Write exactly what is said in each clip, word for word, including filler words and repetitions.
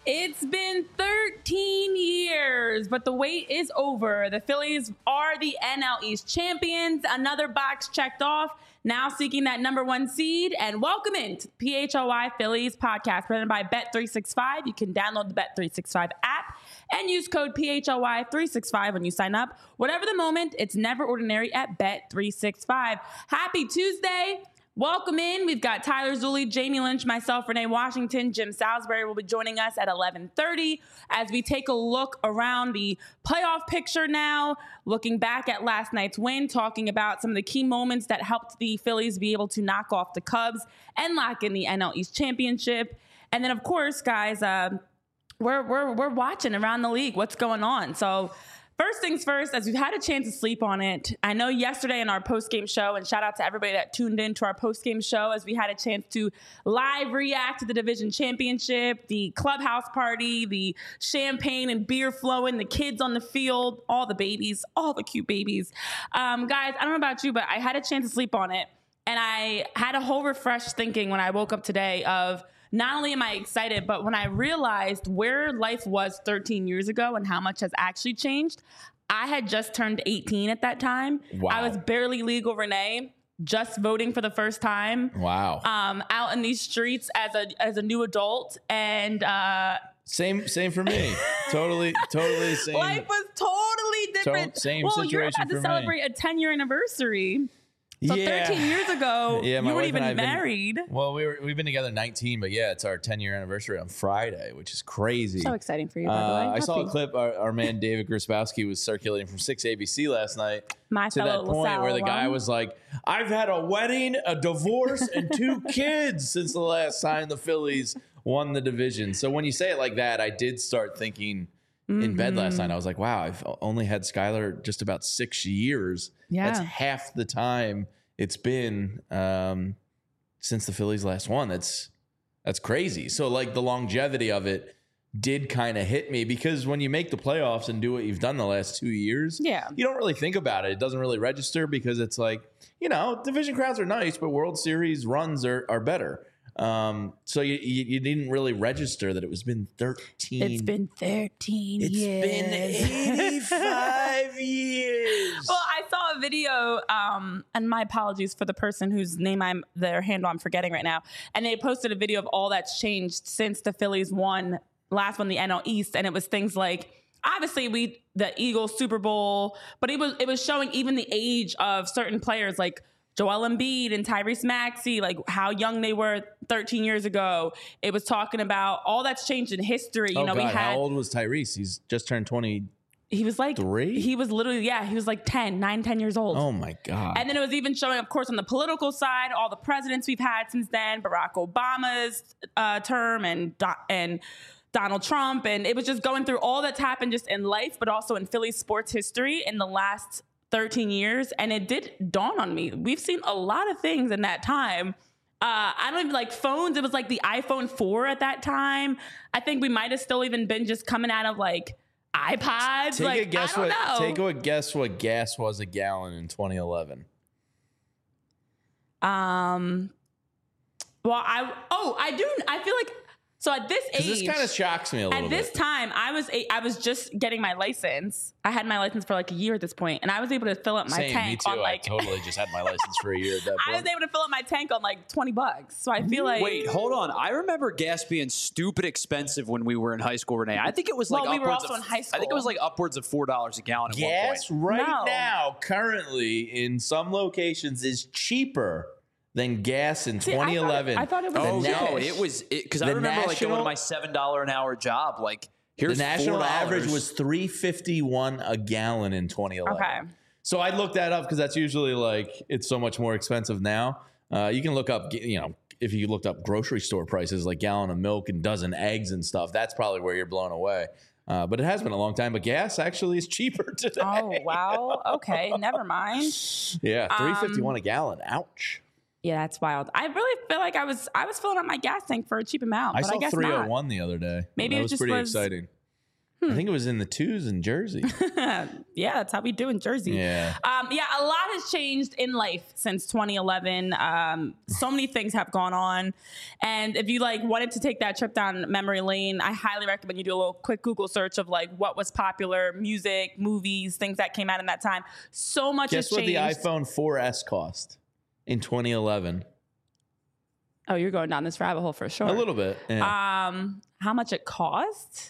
It's been thirteen years, but the wait is over. The Phillies are the N L East champions. Another box checked off, now seeking that number one seed. And welcome into P H L Y Phillies podcast presented by Bet three sixty-five. You can download the Bet three sixty-five app and use code P H L Y three sixty-five when you sign up. Whatever the moment, it's never ordinary at Bet three sixty-five. Happy Tuesday. Welcome in. We've got Tyler Zulli, Jamie Lynch, myself, Renee Washington, Jim Salisbury will be joining us at eleven thirty as we take a look around the playoff picture now, looking back at last night's win, talking about some of the key moments that helped the Phillies be able to knock off the Cubs and lock in the N L East championship. And then, of course, guys, uh, we're, we're, we're watching around the league what's going on. So first things first, as we've had a chance to sleep on it, I know yesterday in our post-game show, and shout out to everybody that tuned in to our post-game show as we had a chance to live react to the division championship, the clubhouse party, the champagne and beer flowing, the kids on the field, all the babies, all the cute babies. Um, guys, I don't know about you, but I had a chance to sleep on it, and I had a whole refreshed thinking when I woke up today of not only am I excited, but when I realized where life was thirteen years ago and how much has actually changed, I had just turned eighteen at that time. Wow. I was barely legal, Renee, just voting for the first time. Wow. Um, out in these streets as a as a new adult, and uh, Same, same for me. totally, totally same. life was totally different. To- same well, situation you're about for to me. celebrate a ten year anniversary. So Yeah. thirteen years ago, Yeah, my you weren't wife and I even have been- married. Well, we were we've been together nineteen, but yeah, it's our ten year anniversary on Friday, which is crazy. So exciting for you, by the Uh, way. I saw a Happy. clip. Our, our man David Grosbowski was circulating from six A B C last night My to that fellow point LaSalle where the guy alum. was like, "I've had a wedding, a divorce, and two kids since the last time the Phillies won the division." So when you say it like that, I did start thinking in bed last night. I was like, "Wow, I've only had Skylar just about six years. Yeah. That's half the time it's been um, since the Phillies last won. That's that's crazy." So like the longevity of it did kind of hit me because when you make the playoffs and do what you've done the last two years, Yeah. you don't really think about it. It doesn't really register because it's like, you know, division crowds are nice, but World Series runs are are better. Um, so you, you you didn't really register that it was been thirteen. It's been thirteen It's years. been eighty-five years. Well, I saw a video, um, and my apologies for the person whose name I'm, their handle I'm forgetting right now. And they posted a video of all that's changed since the Phillies won, last won the N L East. And it was things like, obviously we, the Eagles Super Bowl, but it was, it was showing even the age of certain players like Joel Embiid and Tyrese Maxey, like how young they were thirteen years ago. It was talking about all that's changed in history. You oh know, God, we had, how old was Tyrese? He's just turned twenty. he was like, Three? he was literally, yeah, he was like ten, nine, ten years old. Oh my God. And then it was even showing, of course, on the political side, all the presidents we've had since then, Barack Obama's uh, term and Do- and Donald Trump. And it was just going through all that's happened just in life, but also in Philly sports history in the last thirteen years. And it did dawn on me. We've seen a lot of things in that time. Uh, I don't even like phones. It was like the iPhone four at that time. I think we might have still even been just coming out of like iPods. Take like, a guess I don't what know. take a guess what gas was a gallon in twenty eleven. Um. Well, I oh I do I feel like so at this age This kind of shocks me a little at this bit. time I was a, I was just getting my license. I had my license for like a year at this point, and I was able to fill up my Same, tank me too. on like I totally just had my license for a year at that I was point. able to fill up my tank on like twenty bucks. So I feel like Wait, hold on. I remember gas being stupid expensive when we were in high school, Renee. I think it was like Well, we were upwards also of, in high I think it school. was like upwards of four dollars a gallon at Gas one right No. now, currently in some locations, is cheaper than gas in See, I thought- twenty eleven. I thought it was- point. Oh The no, na- it was because I the remember like going national- to my seven dollar an hour job. Like here's the national four dollars. average was three fifty one a gallon in twenty eleven. okay. So I looked that up because that's usually like it's so much more expensive now. Uh, you can look up, you know, if you looked up grocery store prices like gallon of milk and dozen eggs and stuff, that's probably where you're blown away. Uh, but it has been a long time. But gas actually is cheaper today. Oh wow. Okay. Never mind. Yeah, three Um, fifty one a gallon. Ouch. Yeah, that's wild. I really feel like I was I was filling up my gas tank for a cheap amount, I but saw I guess three not. oh one the other day. Maybe that it was just pretty was- exciting. I think it was in the twos in Jersey. Yeah, that's how we do in Jersey. Yeah. Um, yeah, a lot has changed in life since twenty eleven. Um, so many things have gone on. And if you like wanted to take that trip down memory lane, I highly recommend you do a little quick Google search of like what was popular, music, movies, things that came out in that time. So much Guess has what changed. the iPhone four S cost in twenty eleven? Oh, you're going down this rabbit hole for sure. A little bit. Yeah. Um, how much it cost?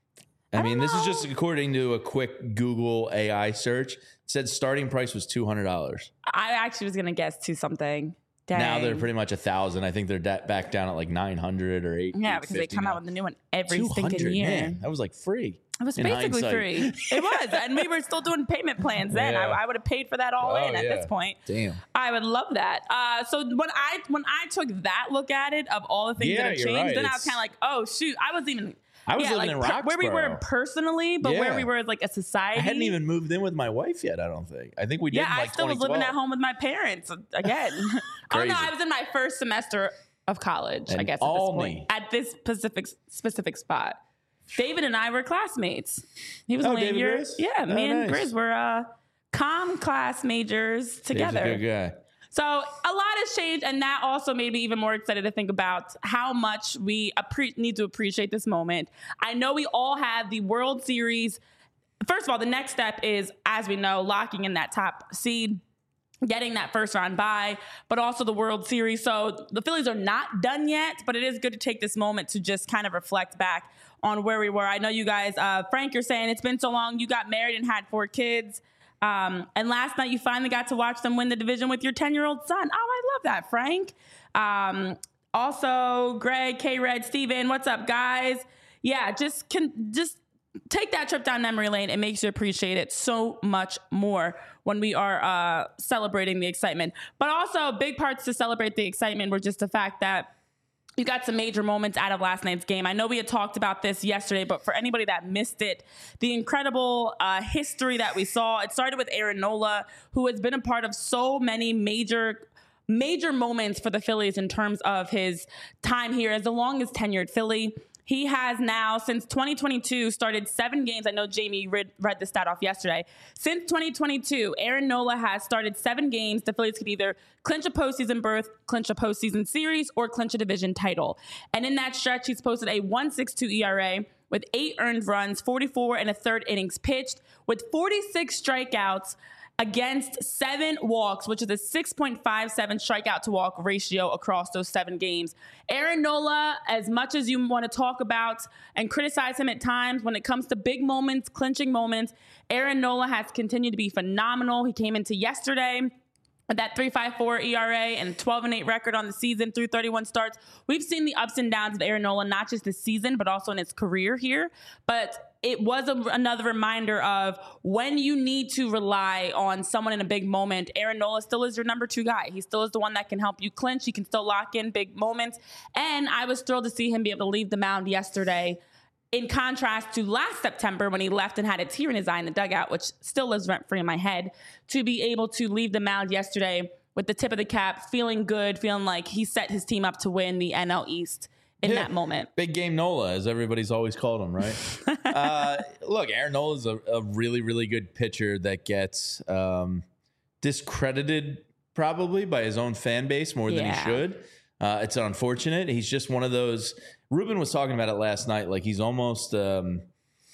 I, I mean, don't this is know. just according to a quick Google A I search. It said starting price was two hundred dollars. I actually was gonna guess to something. Dang. Now they're pretty much a thousand. I think they're da- back down at like nine hundred or eight. Yeah, because they come out with a new one every stinking year. Man, that was like free. It was in basically hindsight. free. It was. And we were still doing payment plans then. Yeah. I, I would have paid for that all Oh, in at yeah. this point. Damn. I would love that. Uh, so when I when I took that look at it of all the things Yeah, that have you're changed, right. then I was It's- kind of like, oh shoot, I wasn't even. I was yeah, living like, in per- where we were Roxborough. personally, but where Yeah. we were as like a society. I hadn't even moved in with my wife yet, I don't think. I think we did Yeah, in like I still was living at twenty twelve. home with my parents again. oh no, Crazy. I was in my first semester of college. I And guess at this Alney. point, at this specific specific spot. David and I were classmates. He was Oh, only David a year. Grizz? Yeah, me Oh, and nice. Grizz were uh, comm class majors He's together. a good guy. So a lot has changed, and that also made me even more excited to think about how much we appre- need to appreciate this moment. I know we all have the World Series. First of all, the next step is, as we know, locking in that top seed, getting that first round bye, but also the World Series. So the Phillies are not done yet, but it is good to take this moment to just kind of reflect back on where we were. I know you guys, uh, Frank, you're saying it's been so long. You got married and had four kids. Um, and last night you finally got to watch them win the division with your ten-year-old son. Oh, I love that, Frank. Um, also, Greg, K-Red, Steven, what's up, guys? Yeah, just can just take that trip down memory lane. It makes you appreciate it so much more when we are uh, celebrating the excitement. But also, big parts to celebrate the excitement were just the fact that you got some major moments out of last night's game. I know we had talked about this yesterday, but for anybody that missed it, the incredible uh, history that we saw, it started with Aaron Nola, who has been a part of so many major major moments for the Phillies in terms of his time here as the longest tenured Philly. He has now, since twenty twenty-two, started seven games. I know Jamie read, read the stat off yesterday. Since twenty twenty-two, Aaron Nola has started seven games. The Phillies could either clinch a postseason berth, clinch a postseason series, or clinch a division title. And in that stretch, he's posted a one point six two E R A with eight earned runs, forty-four and a third innings pitched, with forty-six strikeouts against seven walks, which is a six point five seven strikeout to walk ratio across those seven games. Aaron Nola, as much as you want to talk about and criticize him at times, when it comes to big moments, clinching moments, Aaron Nola has continued to be phenomenal. He came into yesterday with that three point five four E R A and twelve and eight record on the season through thirty-one starts. We've seen the ups and downs of Aaron Nola, not just this season, but also in his career here. But it was a, another reminder of when you need to rely on someone in a big moment, Aaron Nola still is your number two guy. He still is the one that can help you clinch. He can still lock in big moments. And I was thrilled to see him be able to leave the mound yesterday, in contrast to last September when he left and had a tear in his eye in the dugout, which still lives rent-free in my head, to be able to leave the mound yesterday with the tip of the cap, feeling good, feeling like he set his team up to win the N L East in Yeah. that moment. Big game Nola, as everybody's always called him, right? uh, look, Aaron Nola is a, a really, really good pitcher that gets um, discredited probably by his own fan base more than Yeah. he should. Uh, it's unfortunate. He's just one of those. Ruben was talking about it last night. Like he's almost um,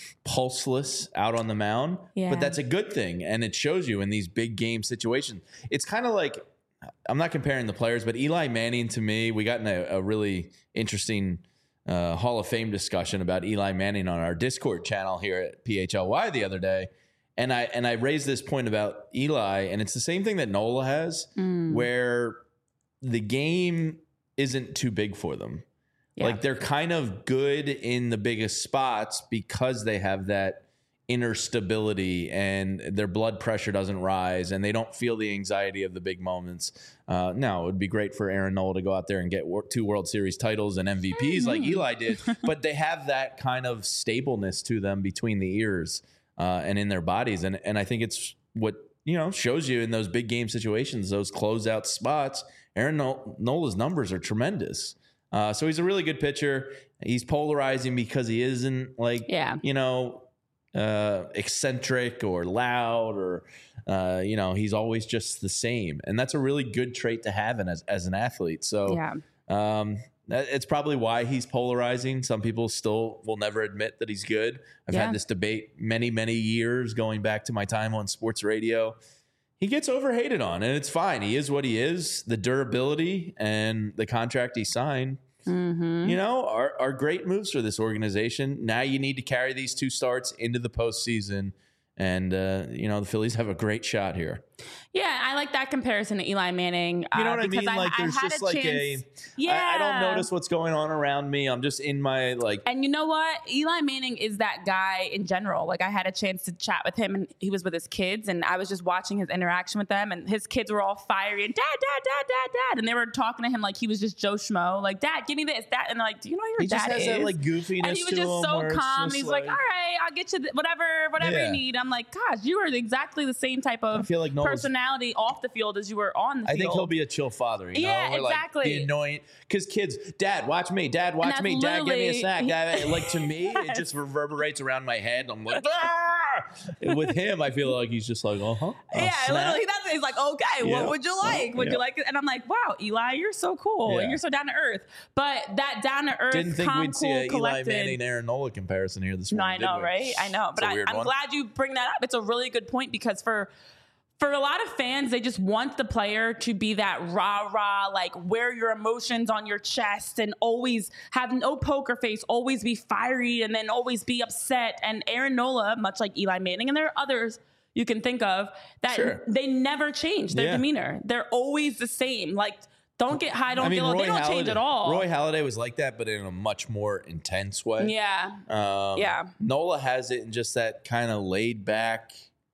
pulseless out on the mound, Yeah. but that's a good thing, and it shows you in these big game situations. It's kind of like, I'm not comparing the players, but Eli Manning to me, we got in a, a really interesting uh, Hall of Fame discussion about Eli Manning on our Discord channel here at P H L Y the other day. And I and I raised this point about Eli, and it's the same thing that Nola has, Mm. where the game isn't too big for them. Yeah. Like they're kind of good in the biggest spots because they have that inner stability and their blood pressure doesn't rise and they don't feel the anxiety of the big moments. Uh, now, it would be great for Aaron Nola to go out there and get wor- two World Series titles and M V Ps Mm-hmm. like Eli did, but they have that kind of stableness to them between the ears uh, and in their bodies. And, and I think it's what, you know, shows you in those big game situations, those closeout spots. Aaron Nol- Nola's numbers are tremendous. Uh, so he's a really good pitcher. He's polarizing because he isn't like, Yeah. you know, uh, eccentric or loud or, uh, you know, he's always just the same. And that's a really good trait to have in, as, as an athlete. So Yeah. um, that, it's probably why he's polarizing. Some people still will never admit that he's good. I've Yeah. had this debate many, many years going back to my time on sports radio. He gets overhated on, and it's fine. He is what he is. The durability and the contract he signed, Mm-hmm. you know, are, are great moves for this organization. Now you need to carry these two starts into the postseason. And, uh, you know, the Phillies have a great shot here. Yeah, I like that comparison to Eli Manning. You know uh, what I because mean? Like, I, there's I had just a like chance, a, yeah. I, I don't notice what's going on around me. I'm just in my, like, And you know what? Eli Manning is that guy in general. Like, I had a chance to chat with him, and he was with his kids, and I was just watching his interaction with them, and his kids were all fiery and dad, dad, dad, dad, dad, and they were talking to him like he was just Joe Schmo. Like, dad, give me this, dad, and they're like, do you know who your he dad just has is? that, like, goofiness and he was to just him so where it's calm. just He's like, all right, I'll get you th- whatever, whatever Yeah. you need. I'm like, gosh, you are exactly the same type I of feel like Noel's- personality off the field as you were on the I field. think he'll be a chill father. You Yeah, know? Or, like, exactly. the annoying, because kids, dad, watch me. Dad, watch that's me. Dad, give me a literally- snack. Dad, like, to me, it Yes. just reverberates around my head. I'm like, ah! With him, I feel like he's just like, uh huh. Yeah, literally, that's he's like, okay, Yeah. what would you like? Would Yeah. you like it? And I'm like, wow, Eli, you're so cool. Yeah. And you're so down to earth. But that down to earth, Didn't think calm, we'd see cool, a Eli collected. Manning, Aaron Nola comparison here this No, morning. I know, did we? right? I know. But It's a I, weird I'm one. glad you bring that up. It's a really good point because for for a lot of fans, they just want the player to be that rah rah, like wear your emotions on your chest and always have no poker face, always be fiery and then always be upset. And Aaron Nola, much like Eli Manning, and there are others you can think of that Sure. they never change their Yeah. demeanor. They're always the same. Like, don't get high, don't I mean, get low. Roy They don't Halladay, change at all. Roy Halladay was like that, but in a much more intense way. yeah. Um, Yeah. Nola has it in just that kind of laid back.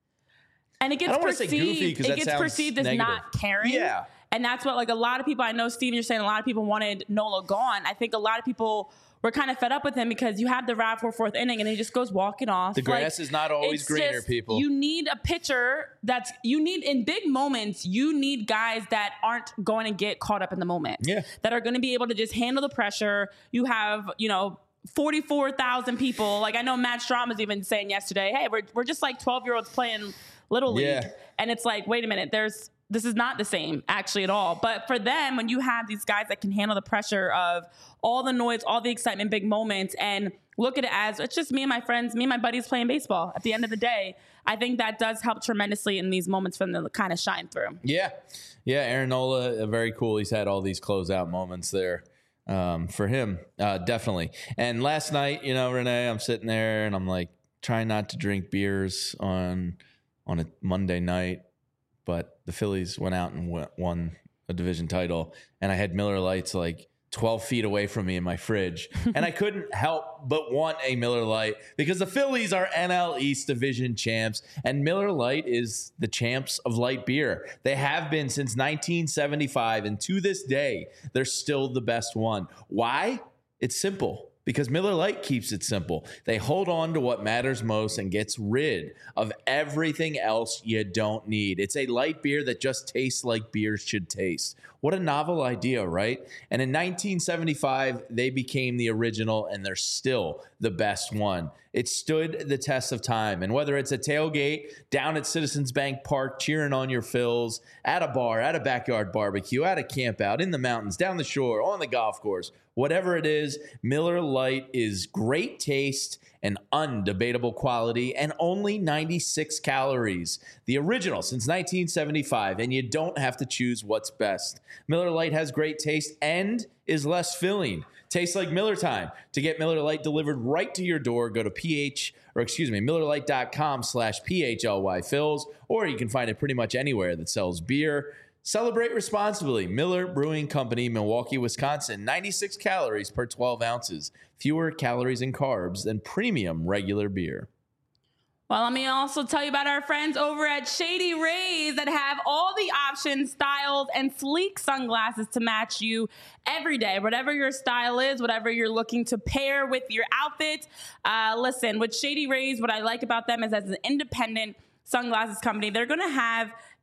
And it gets I don't wanna say perceived. goofy 'cause it that gets sounds perceived as negative. not caring. Yeah. And that's what, like, a lot of people, I know, Steven, you're saying a lot of people wanted Nola gone. I think a lot of people were kind of fed up with him because you have the Rav for fourth inning and he just goes walking off. The Like, grass is not always it's greener, just- people. You need a pitcher that's, you need, in big moments, you need guys that aren't going to get caught up in the moment. Yeah. That are going to be able to just handle the pressure. You have, you know, forty-four thousand people. Like, I know Matt Strom was even saying yesterday, hey, we're, we're just like twelve-year-olds playing Little League. Yeah. And it's like, wait a minute, there's this is not the same actually at all. But for them, when you have these guys that can handle the pressure of all the noise, all the excitement, big moments, and look at it as it's just me and my friends, me and my buddies playing baseball at the end of the day, I think that does help tremendously in these moments for them to kind of shine through. Yeah. Yeah. Aaron Nola, uh, very cool. He's had all these closeout moments there um, for him. Uh, definitely. And last night, you know, Renee, I'm sitting there and I'm like trying not to drink beers on on a Monday night, but the Phillies went out and w- won a division title, and I had Miller Lights like twelve feet away from me in my fridge, and I couldn't help but want a Miller Lite because the Phillies are N L East Division champs, and Miller Lite is the champs of light beer. They have been since nineteen seventy-five, and to this day, they're still the best one. Why? It's simple. Because Miller Lite keeps it simple. They hold on to what matters most and gets rid of everything else you don't need. It's a light beer that just tastes like beers should taste. What a novel idea, right? And in nineteen seventy-five, they became the original, and they're still the best one. It stood the test of time. And whether it's a tailgate, down at Citizens Bank Park, cheering on your Phils, at a bar, at a backyard barbecue, at a camp out, in the mountains, down the shore, on the golf course, whatever it is, Miller Lite is great taste and undebatable quality and only ninety-six calories. The original since nineteen seventy-five, and you don't have to choose what's best. Miller Lite has great taste and is less filling. Tastes like Miller time. To get Miller Lite delivered right to your door, go to ph or excuse me, MillerLite.com slash PHLY Phils, or you can find it pretty much anywhere that sells beer. Celebrate responsibly. Miller Brewing Company, Milwaukee, Wisconsin. ninety-six calories per twelve ounces. Fewer calories and carbs than premium regular beer. Well, let me also tell you about our friends over at Shady Rays that have all the options, styles, and sleek sunglasses to match you every day. Whatever your style is, whatever you're looking to pair with your outfit. Uh, listen, with Shady Rays, what I like about them is as an independent sunglasses company, they're going to have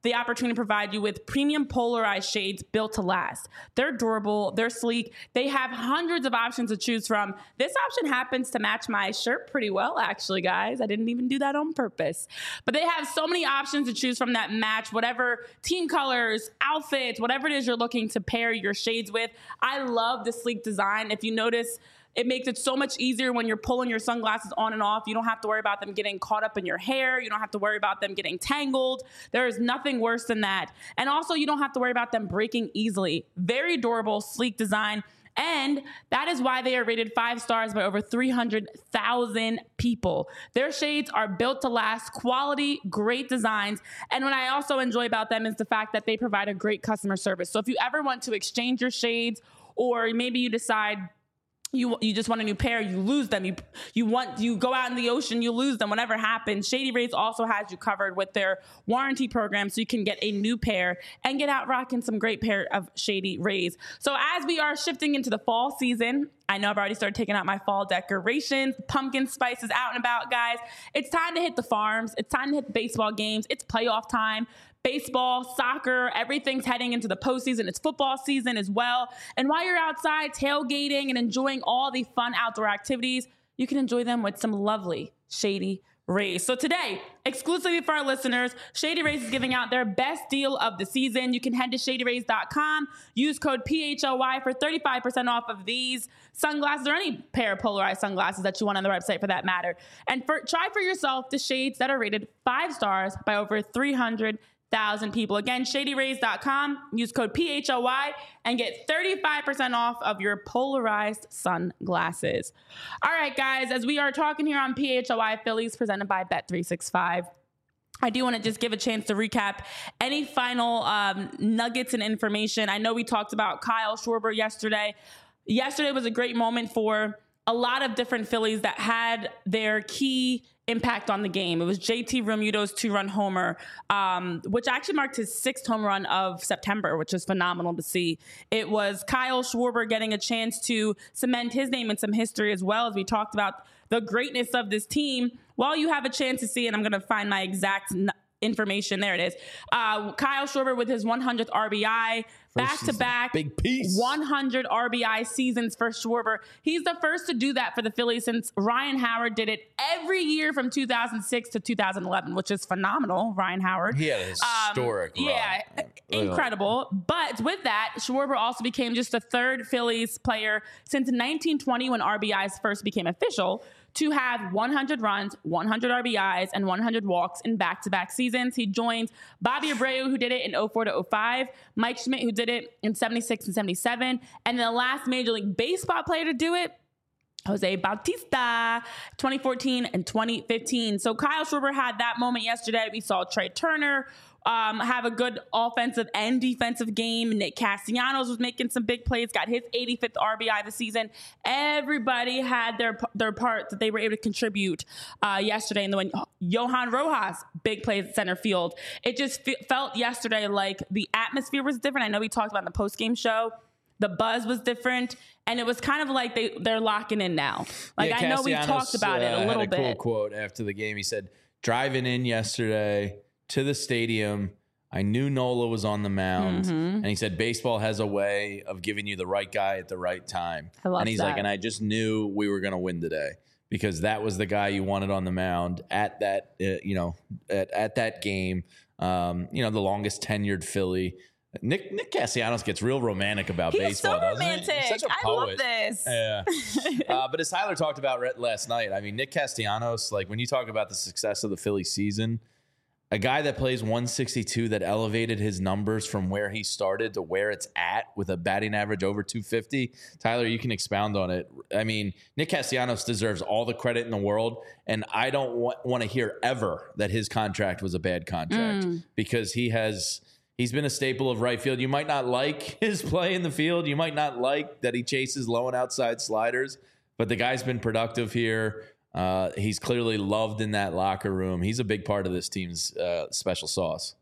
the opportunity to provide you with premium polarized shades built to last. They're durable, they're sleek, they have hundreds of options to choose from. This option happens to match my shirt pretty well, actually, guys. I didn't even do that on purpose. But they have so many options to choose from that match whatever team colors, outfits, whatever it is you're looking to pair your shades with. I love the sleek design. If you notice, it makes it so much easier when you're pulling your sunglasses on and off. You don't have to worry about them getting caught up in your hair. You don't have to worry about them getting tangled. There is nothing worse than that. And also, you don't have to worry about them breaking easily. Very durable, sleek design. And that is why they are rated five stars by over three hundred thousand people. Their shades are built to last, quality, great designs. And what I also enjoy about them is the fact that they provide a great customer service. So if you ever want to exchange your shades, or maybe you decide You you just want a new pair, you lose them. You you want you go out in the ocean, you lose them. Whatever happens, Shady Rays also has you covered with their warranty program, so you can get a new pair and get out rocking some great pair of Shady Rays. So as we are shifting into the fall season, I know I've already started taking out my fall decorations. Pumpkin spice is out and about, guys. It's time to hit the farms. It's time to hit the baseball games. It's playoff time. Baseball, soccer, everything's heading into the postseason. It's football season as well. And while you're outside tailgating and enjoying all the fun outdoor activities, you can enjoy them with some lovely Shady Rays. So today, exclusively for our listeners, Shady Rays is giving out their best deal of the season. You can head to shady rays dot com, use code P H L Y for thirty-five percent off of these sunglasses or any pair of polarized sunglasses that you want on the website for that matter. And for, try for yourself the shades that are rated five stars by over three hundred thousand people. Again, shady rays dot com, use code P H L Y and get thirty-five percent off of your polarized sunglasses. All right, guys, as we are talking here on P H L Y Phillies presented by Bet three sixty-five, I do want to just give a chance to recap any final um, nuggets and information. I know we talked about Kyle Schwarber yesterday. Yesterday was a great moment for a lot of different Phillies that had their key impact on the game. It was J T Realmuto's two-run homer, um, which actually marked his sixth home run of September, which is phenomenal to see. It was Kyle Schwarber getting a chance to cement his name in some history, as well as we talked about the greatness of this team. While you have a chance to see, and I'm going to find my exact n- information. There it is. Uh, Kyle Schwarber with his one hundredth R B I, back-to-back big piece. one hundred R B I seasons for Schwarber. He's the first to do that for the Phillies since Ryan Howard did it every year from two thousand six to two thousand eleven, which is phenomenal. Ryan Howard. He had a historic um, run. Yeah, incredible. But with that, Schwarber also became just the third Phillies player since nineteen twenty, when R B Is first became official, to have one hundred runs, one hundred R B Is, and one hundred walks in back-to-back seasons. He joins Bobby Abreu, who did it in oh four to oh five, Mike Schmidt, who did it in seventy-six and seventy-seven, and the last Major League Baseball player to do it, Jose Bautista, twenty fourteen and twenty fifteen. So Kyle Schwarber had that moment yesterday. We saw Trey Turner um, have a good offensive and defensive game. Nick Castellanos was making some big plays, got his eighty-fifth R B I this season. Everybody had their their part that they were able to contribute uh, yesterday. And then when Johan Rojas, big plays at center field. It just f- felt yesterday like the atmosphere was different. I know we talked about in the post-game show. The buzz was different, and it was kind of like they, they're locking in now. Like, yeah, I know we talked about uh, it a little had a bit. Cool quote after the game. He said, driving in yesterday to the stadium, I knew Nola was on the mound. Mm-hmm. And he said, baseball has a way of giving you the right guy at the right time. I love and he's that. like, and I just knew we were going to win today, because that was the guy you wanted on the mound at that, uh, you know, at, at that game. Um, you know, the longest tenured Philly. Nick Nick Castellanos gets real romantic about He's baseball, so doesn't romantic. he? He's such a I poet. love this. Yeah. uh, but as Tyler talked about re- last night, I mean, Nick Castellanos, like when you talk about the success of the Philly season, a guy that plays one sixty-two that elevated his numbers from where he started to where it's at with a batting average over two fifty. Tyler, you can expound on it. I mean, Nick Castellanos deserves all the credit in the world, and I don't wa- want to hear ever that his contract was a bad contract Mm. because he has... He's been a staple of right field. You might not like his play in the field. You might not like that he chases low and outside sliders, but the guy's been productive here. Uh, he's clearly loved in that locker room. He's a big part of this team's uh, special sauce.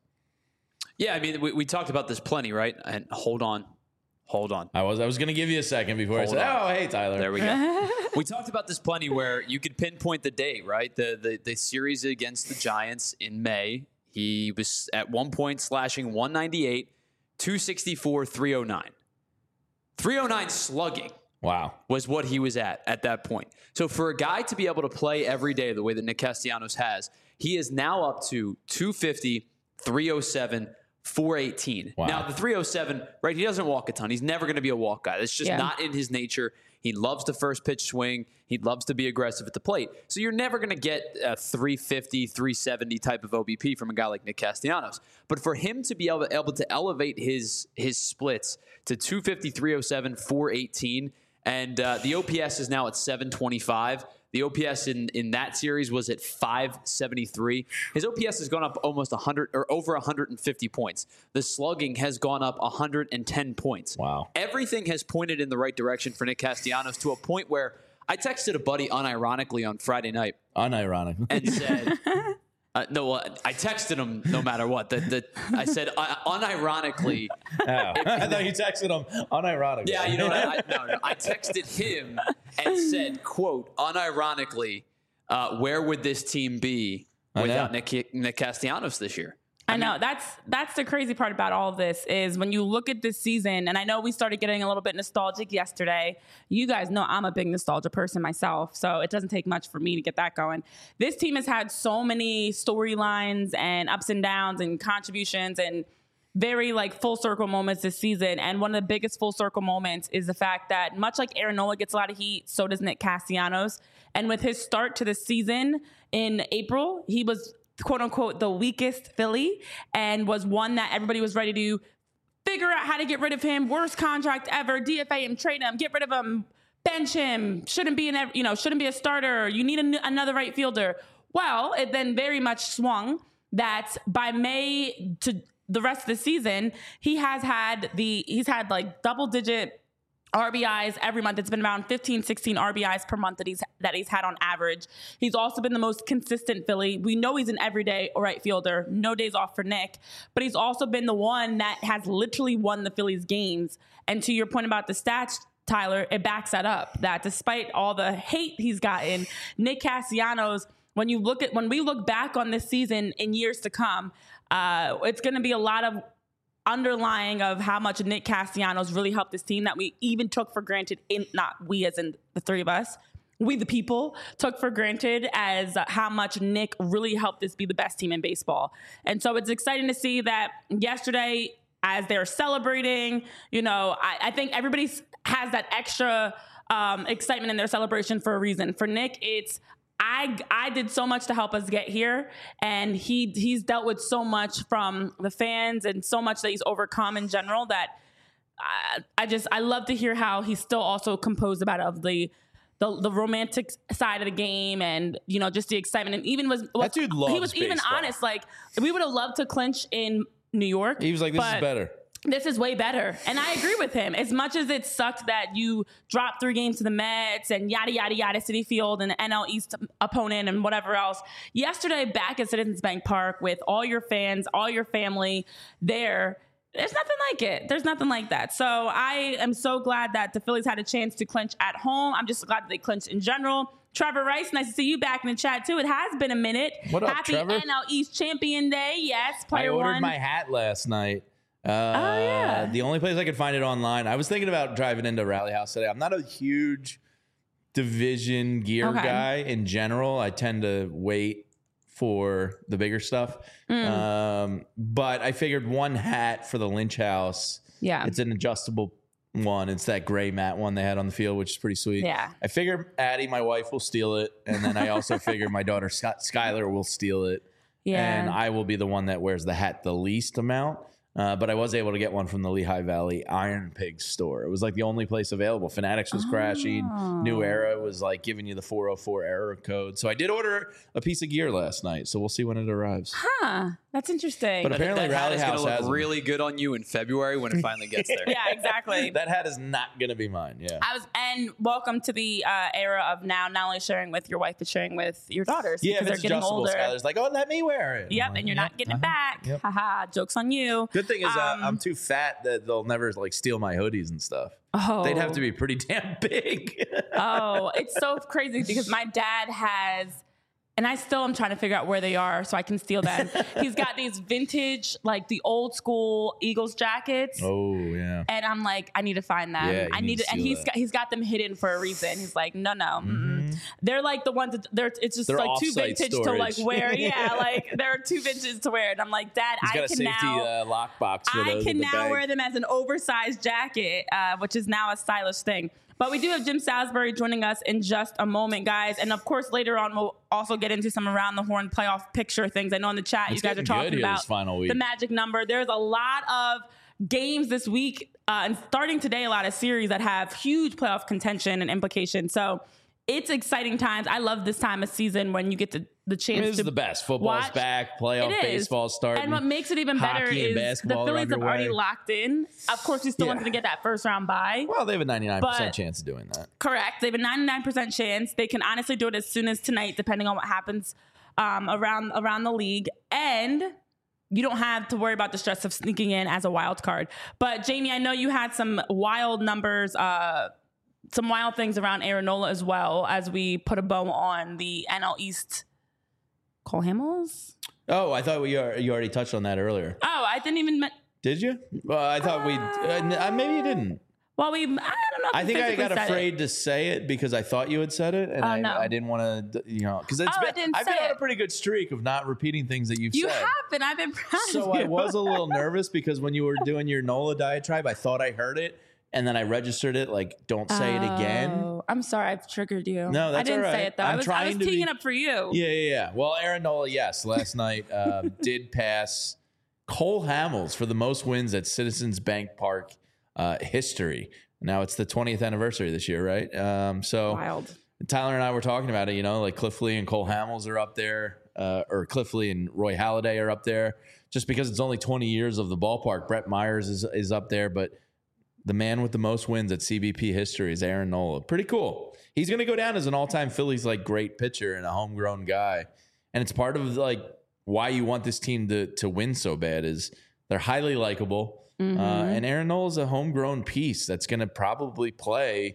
Yeah, I mean, we, we talked about this plenty, right? And hold on. Hold on. I was I was going to give you a second before Hold I said, on. oh, hey, Tyler. There we go. We talked about this plenty where you could pinpoint the date, right? The, the the series against the Giants in May. He was at one point slashing one ninety-eight, two sixty-four, three oh nine. three oh nine slugging. Wow. Was what he was at at that point. So for a guy to be able to play every day the way that Nick Castellanos has, he is now up to two fifty, three oh seven, four eighteen. Wow. Now, the three oh seven, right, he doesn't walk a ton. He's never going to be a walk guy. That's just Yeah. not in his nature. He loves the first pitch swing. He loves to be aggressive at the plate. So you're never going to get a three fifty, three seventy type of O B P from a guy like Nick Castellanos. But for him to be able, able to elevate his, his splits to two fifty, three oh seven, four eighteen, and uh, the O P S is now at seven twenty-five. The O P S in, in that series was at five seventy-three. His O P S has gone up almost one hundred or over one hundred fifty points. The slugging has gone up one hundred ten points. Wow. Everything has pointed in the right direction for Nick Castellanos to a point where I texted a buddy unironically on Friday night Unironic. and said, uh, no, uh, I texted him no matter what. The, the, I said, uh, unironically. Oh. I thought you texted him unironic. Yeah, you know what? I, I, no, no, I texted him and said, quote, unironically, uh, where would this team be I without know. Nick, Nick Castellanos this year? I know that's that's the crazy part about all of this is when you look at this season, and I know we started getting a little bit nostalgic yesterday. You guys know I'm a big nostalgia person myself, so it doesn't take much for me to get that going. This team has had so many storylines and ups and downs and contributions and very like full circle moments this season. And one of the biggest full circle moments is the fact that much like Aaron Nola gets a lot of heat, so does Nick Castellanos. And with his start to the season in April, he was quote unquote the weakest Philly and was one that everybody was ready to figure out how to get rid of him. Worst contract ever. D F A him, trade him, get rid of him, bench him. Shouldn't be an you know shouldn't be a starter. You need a, another right fielder. Well, it then very much swung that by May to the rest of the season, he has had the he's had like double digit R B Is every month. It's been around fifteen, sixteen R B Is per month that he's that he's had on average. He's also been the most consistent Philly. We know he's an everyday right fielder. No days off for Nick. But he's also been the one that has literally won the Phillies games. And to your point about the stats, Tyler, it backs that up. That despite all the hate he's gotten, Nick Castellanos, when you look at when we look back on this season in years to come, uh, it's going to be a lot of underlying of how much Nick Castellanos really helped this team that we even took for granted, in not we as in the three of us, we the people took for granted as how much Nick really helped this be the best team in baseball. And so it's exciting to see that yesterday as they're celebrating, you know, I, I think everybody has that extra um, excitement in their celebration for a reason. For Nick, it's I I did so much to help us get here, and he he's dealt with so much from the fans and so much that he's overcome in general that I, I just I love to hear how he's still also composed about of the the the romantic side of the game and you know just the excitement and even was, was That dude loves he was even baseball. honest like we would have loved to clinch in New York. He was like, this is but better. This is way better. And I agree with him. As much as it sucked that you dropped three games to the Mets and yada, yada, yada, City Field and the N L East opponent and whatever else. Yesterday, back at Citizens Bank Park with all your fans, all your family there, there's nothing like it. There's nothing like that. So I am so glad that the Phillies had a chance to clinch at home. I'm just glad that they clinched in general. Trevor Rice, nice to see you back in the chat, too. It has been a minute. What up, Happy Trevor? N L East Champion Day. Yes, I player ordered one. my hat last night. Uh, Oh, yeah. The only place I could find it online. I was thinking about driving into Rally House today. I'm not a huge division gear Okay. guy in general. I tend to wait for the bigger stuff. Mm. Um, but I figured one hat for the Lynch House. Yeah. It's an adjustable one. It's that gray matte one they had on the field, which is pretty sweet. Yeah. I figure Addie, my wife, will steal it. And then I also figure my daughter, Scott, Skylar, will steal it. Yeah. And I will be the one that wears the hat the least amount. Uh, but I was able to get one from the Lehigh Valley Iron Pig store. It was like the only place available. Fanatics was crashing. New Era was like giving you the four oh four error code. So I did order a piece of gear last night. So we'll see when it arrives. Huh. That's interesting. But apparently that hat Rally is going House to has look them. really good on you in February when it finally gets there. yeah, exactly. That hat is not going to be mine. Yeah. I was, and welcome to the uh, era of now not only sharing with your wife, but sharing with your daughters Yeah, because if they're it's getting adjustable, older. Skylar's like, oh, let me wear it. Yep, I'm like, and you're yep, not getting it uh-huh, back. yep. Haha, joke's on you. Good thing is uh, Um, I'm too fat that they'll never like steal my hoodies and stuff. Oh, They'd have to be pretty damn big. oh, it's so crazy because my dad has and I still am trying to figure out where they are so I can steal them. He's got these vintage, like the old school Eagles jackets. Oh yeah. And I'm like, I need to find them. Yeah, you I need need to to, and steal he's that. got, he's got them hidden for a reason. He's like, no, no, mm-mm. They're like the ones that they're. It's just They're like too off-site vintage to like storage. wear. Yeah, like they're too vintage to wear. And I'm like, Dad, He's I got a can safety now. uh, lockbox for I those can with the now bag. wear them as an oversized jacket, uh, which is now a stylish thing. But we do have Jim Salisbury joining us in just a moment, guys. And of course, later on, we'll also get into some around the horn playoff picture things. I know in the chat, It's you guys are getting talking good here about this final week. the magic number. There's a lot of games this week, uh, and starting today, a lot of series that have huge playoff contention and implications. So it's exciting times. I love this time of season when you get to, the chance This to is the best. Football's watch. back. Playoff It is. baseball starting. And what makes it even better Hockey and is the basketball are Phillies have already underway. locked in. Of course, we still Yeah. want them to get that first round bye. Well, they have a ninety-nine percent But- chance of doing that. Correct. They have a ninety-nine percent chance. They can honestly do it as soon as tonight, depending on what happens um, around around the league. And you don't have to worry about the stress of sneaking in as a wild card. But Jamie, I know you had some wild numbers, uh, some wild things around Aaron Nola as well, as we put a bow on the N L East. Cole Hamels? Oh, I thought we are, you already touched on that earlier. Oh, I didn't even. Me- Did you? Well, I thought we. Uh, maybe you didn't. well, we. I don't know. If I we think I physically got said afraid it. to say it because I thought you had said it, and Oh, I, no. I didn't want to, you know, because it's Oh, I been, didn't I've been say on a it. pretty good streak of not repeating things that you've You said. have been. I've been proud So of you. I was a little nervous because when you were doing your Nola diatribe, I thought I heard it, and then I registered it like, "Don't say it again." Oh, I'm sorry, I've triggered you. No, that's I didn't all say right. it though. I'm I was, I trying was to teeing be- it up for you. Yeah, yeah, yeah. Well, Aaron Nola, yes, last night um, did pass Cole Hamels for the most wins at Citizens Bank Park uh, history. Now it's the twentieth anniversary this year, right? Um, so Wild. Tyler and I were talking about it. You know, like Cliff Lee and Cole Hamels are up there, uh, or Cliff Lee and Roy Halladay are up there. Just because it's only twenty years of the ballpark, Brett Myers is is up there, but the man with the most wins at C B P history is Aaron Nola. Pretty cool. He's going to go down as an all-time Phillies like great pitcher and a homegrown guy. And it's part of like why you want this team to to win so bad is they're highly likable. Mm-hmm. Uh, and Aaron Nola is a homegrown piece that's going to probably play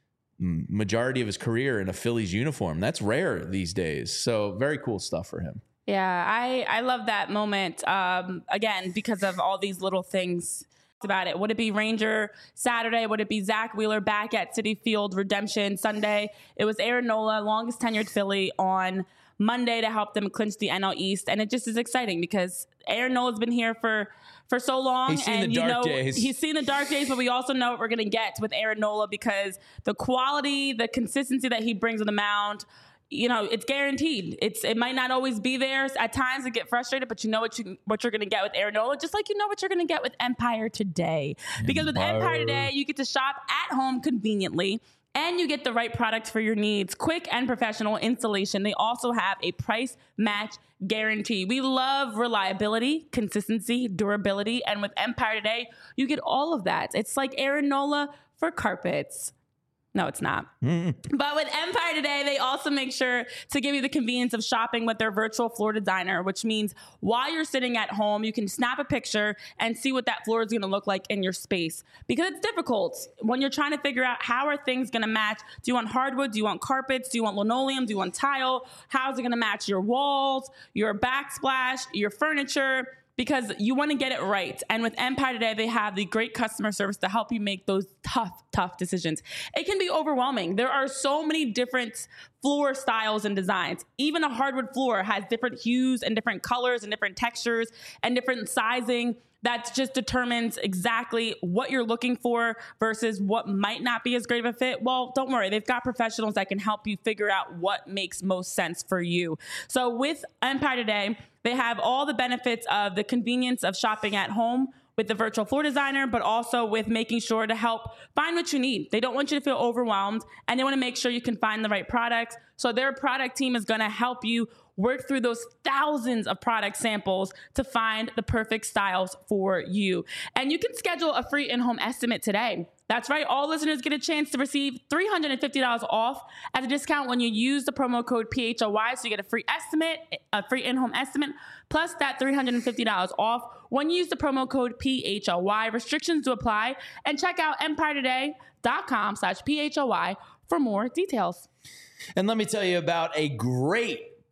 m- majority of his career in a Phillies uniform. That's rare these days. So very cool stuff for him. Yeah, I I love that moment. Um, again, because of all these little things about it. Would it be Ranger Saturday? Would it be Zach Wheeler back at Citi Field Redemption Sunday? It was Aaron Nola, longest tenured Philly, on Monday to help them clinch the N L East. And it just is exciting because Aaron Nola's been here for for so long. He's seen and the you dark know days. he's seen the dark days, but we also know what we're gonna get with Aaron Nola because the quality, the consistency that he brings on the mound, you know, it's guaranteed. It's it might not always be there. At times it get frustrated, but you know what you what you're gonna get with Aaron Nola, just like you know what you're gonna get with Empire Today. Because with Empire. Empire Today, you get to shop at home conveniently. And you get the right product for your needs. Quick and professional installation. They also have a price match guarantee. We love reliability, consistency, durability. And with Empire Today, you get all of that. It's like Aaron Nola for carpets. No, it's not. But with Empire Today, they also make sure to give you the convenience of shopping with their virtual floor designer, which means while you're sitting at home, you can snap a picture and see what that floor is going to look like in your space. Because it's difficult when you're trying to figure out how are things going to match. Do you want hardwood? Do you want carpets? Do you want linoleum? Do you want tile? How's it going to match your walls, your backsplash, your furniture? Because you want to get it right. And with Empire Today, they have the great customer service to help you make those tough, tough decisions. It can be overwhelming. There are so many different floor styles and designs. Even a hardwood floor has different hues and different colors and different textures and different sizing. That just determines exactly what you're looking for versus what might not be as great of a fit. Well, don't worry. They've got professionals that can help you figure out what makes most sense for you. So with Empire Today, they have all the benefits of the convenience of shopping at home with the virtual floor designer, but also with making sure to help find what you need. They don't want you to feel overwhelmed, and they want to make sure you can find the right products. So their product team is going to help you work through those thousands of product samples to find the perfect styles for you. And you can schedule a free in-home estimate today. That's right. All listeners get a chance to receive three hundred fifty dollars off as a discount when you use the promo code P H O Y. So you get a free estimate, a free in-home estimate, plus that three hundred fifty dollars off when you use the promo code P H O Y. Restrictions to apply. And check out empire today dot com slash P H O Y for more details. And let me tell you about a great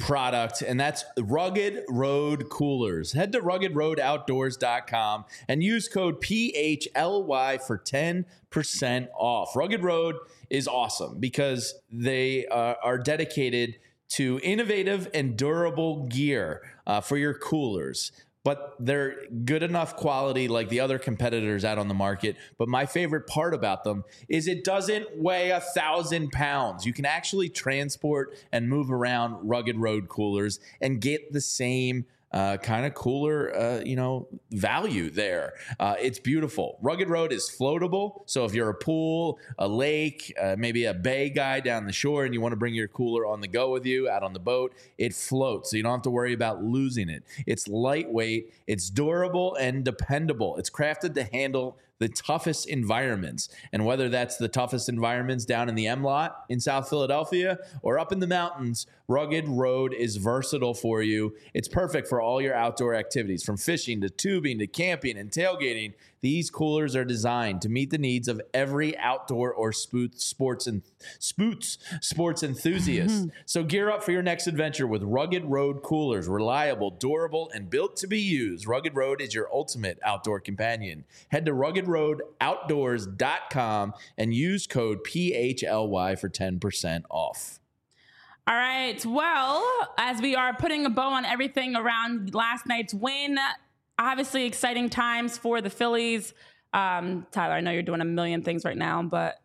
product, and that's Rugged Road Coolers. Head to rugged road outdoors dot com and use code P H L Y for ten percent off. Rugged Road is awesome because they uh, are dedicated to innovative and durable gear uh, for your coolers. But they're good enough quality like the other competitors out on the market. But my favorite part about them is it doesn't weigh a thousand pounds. You can actually transport and move around Rugged Road coolers and get the same uh, kind of cooler, uh, you know, value there. Uh, it's beautiful. Rugged Road is floatable. So if you're a pool, a lake, uh, maybe a bay guy down the shore and you want to bring your cooler on the go with you out on the boat, it floats. So you don't have to worry about losing it. It's lightweight. It's durable and dependable. It's crafted to handle the toughest environments. And whether that's the toughest environments down in the M-Lot in South Philadelphia or up in the mountains, Rugged Road is versatile for you. It's perfect for all your outdoor activities, from fishing to tubing to camping and tailgating. These coolers are designed to meet the needs of every outdoor or spoot sports and spoots sports enthusiast. So gear up for your next adventure with Rugged Road coolers. Reliable, durable, and built to be used. Rugged Road is your ultimate outdoor companion. Head to rugged road outdoors dot com and use code P H L Y for ten percent off. All right. Well, as we are putting a bow on everything around last night's win, obviously exciting times for the Phillies. Um, Tyler, I know you're doing a million things right now, but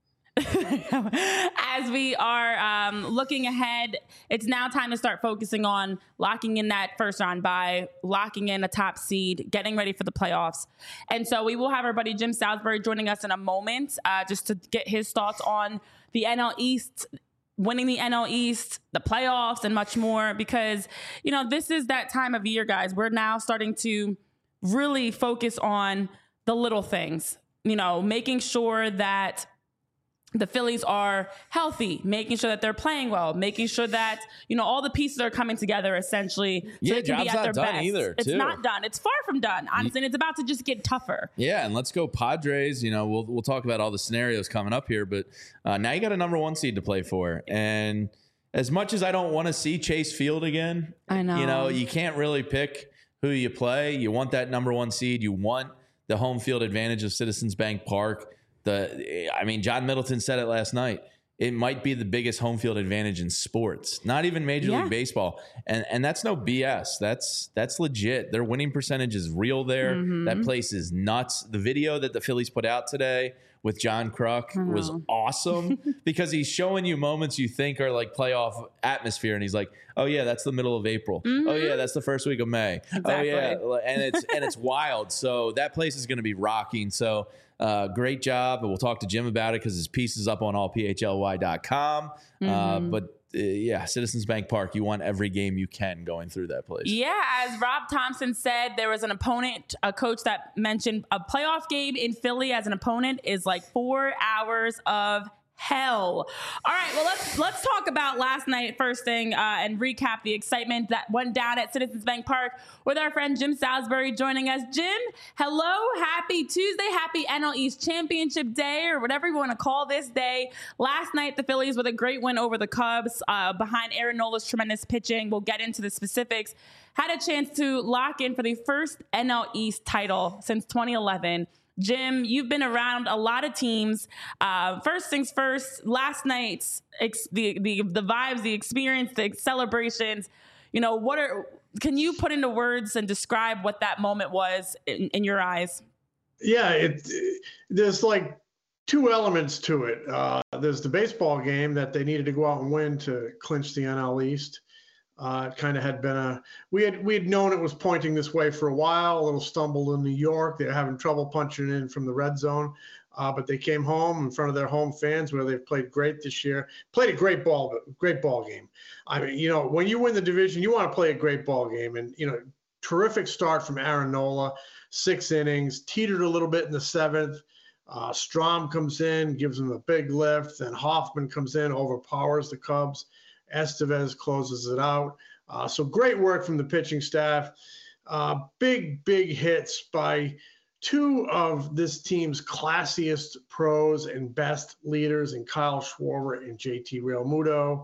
as we are um, looking ahead, it's now time to start focusing on locking in that first round bye, locking in a top seed, getting ready for the playoffs. And so we will have our buddy Jim Salisbury joining us in a moment uh, just to get his thoughts on the N L East, winning the N L East, the playoffs, and much more, because, you know, this is that time of year, guys. We're now starting to really focus on the little things, you know, making sure that the Phillies are healthy, making sure that they're playing well, making sure that, you know, all the pieces are coming together essentially so Yeah, they can be job's at their not done best. either, It's too. not done. It's far from done, honestly, and it's about to just get tougher. Yeah, and let's go Padres. You know, we'll we'll talk about all the scenarios coming up here, but uh, now you got a number one seed to play for. And as much as I don't want to see Chase Field again, I know. you know, you can't really pick who you play. You want that number one seed. You want the home field advantage of Citizens Bank Park. The, I mean, John Middleton said it last night. It might be the biggest home field advantage in sports, not even Major Yeah. League Baseball. And and that's no B S. That's that's legit. Their winning percentage is real there. Mm-hmm. That place is nuts. The video that the Phillies put out today with John Kruk was awesome because he's showing you moments you think are like playoff atmosphere. And he's like, oh, yeah, that's the middle of April. Mm-hmm. Oh, yeah, that's the first week of May. Exactly. Oh, yeah. And it's, and it's wild. So that place is going to be rocking. So Uh, great job. And we'll talk to Jim about it because his piece is up on all P H L Y dot com. Mm-hmm. Uh, but uh, yeah, Citizens Bank Park, you want every game you can going through that place. Yeah, as Rob Thompson said, there was an opponent, a coach that mentioned a playoff game in Philly as an opponent is like four hours of hell. All right, well, let's let's talk about last night first thing uh, and recap the excitement that went down at Citizens Bank Park with our friend Jim Salisbury joining us. Jim, hello, happy Tuesday, happy N L East Championship Day, or whatever you want to call this day. Last night, the Phillies with a great win over the Cubs uh, behind Aaron Nola's tremendous pitching. We'll get into the specifics. Had a chance to lock in for the first N L East title since twenty eleven. Jim, you've been around a lot of teams. Uh, first things first, last night's ex- the, the the vibes, the experience, the celebrations. You know, what are? Can you put into words and describe what that moment was in, in your eyes? Yeah, it, there's like two elements to it. Uh, there's the baseball game that they needed to go out and win to clinch the N L East. Uh, it kind of had been a we had we had known it was pointing this way for a while. A little stumble in New York. They were having trouble punching in from the red zone, uh, but they came home in front of their home fans, where they've played great this year. Played a great ball, great ball game. I mean, you know, when you win the division, you want to play a great ball game, and you know, terrific start from Aaron Nola, six innings, teetered a little bit in the seventh. Uh, Strom comes in, gives them a big lift. Then Hoffman comes in, overpowers the Cubs. Estevez closes it out. Uh, so great work from the pitching staff. Uh, big, big hits by two of this team's classiest pros and best leaders in Kyle Schwarber and J T Realmuto.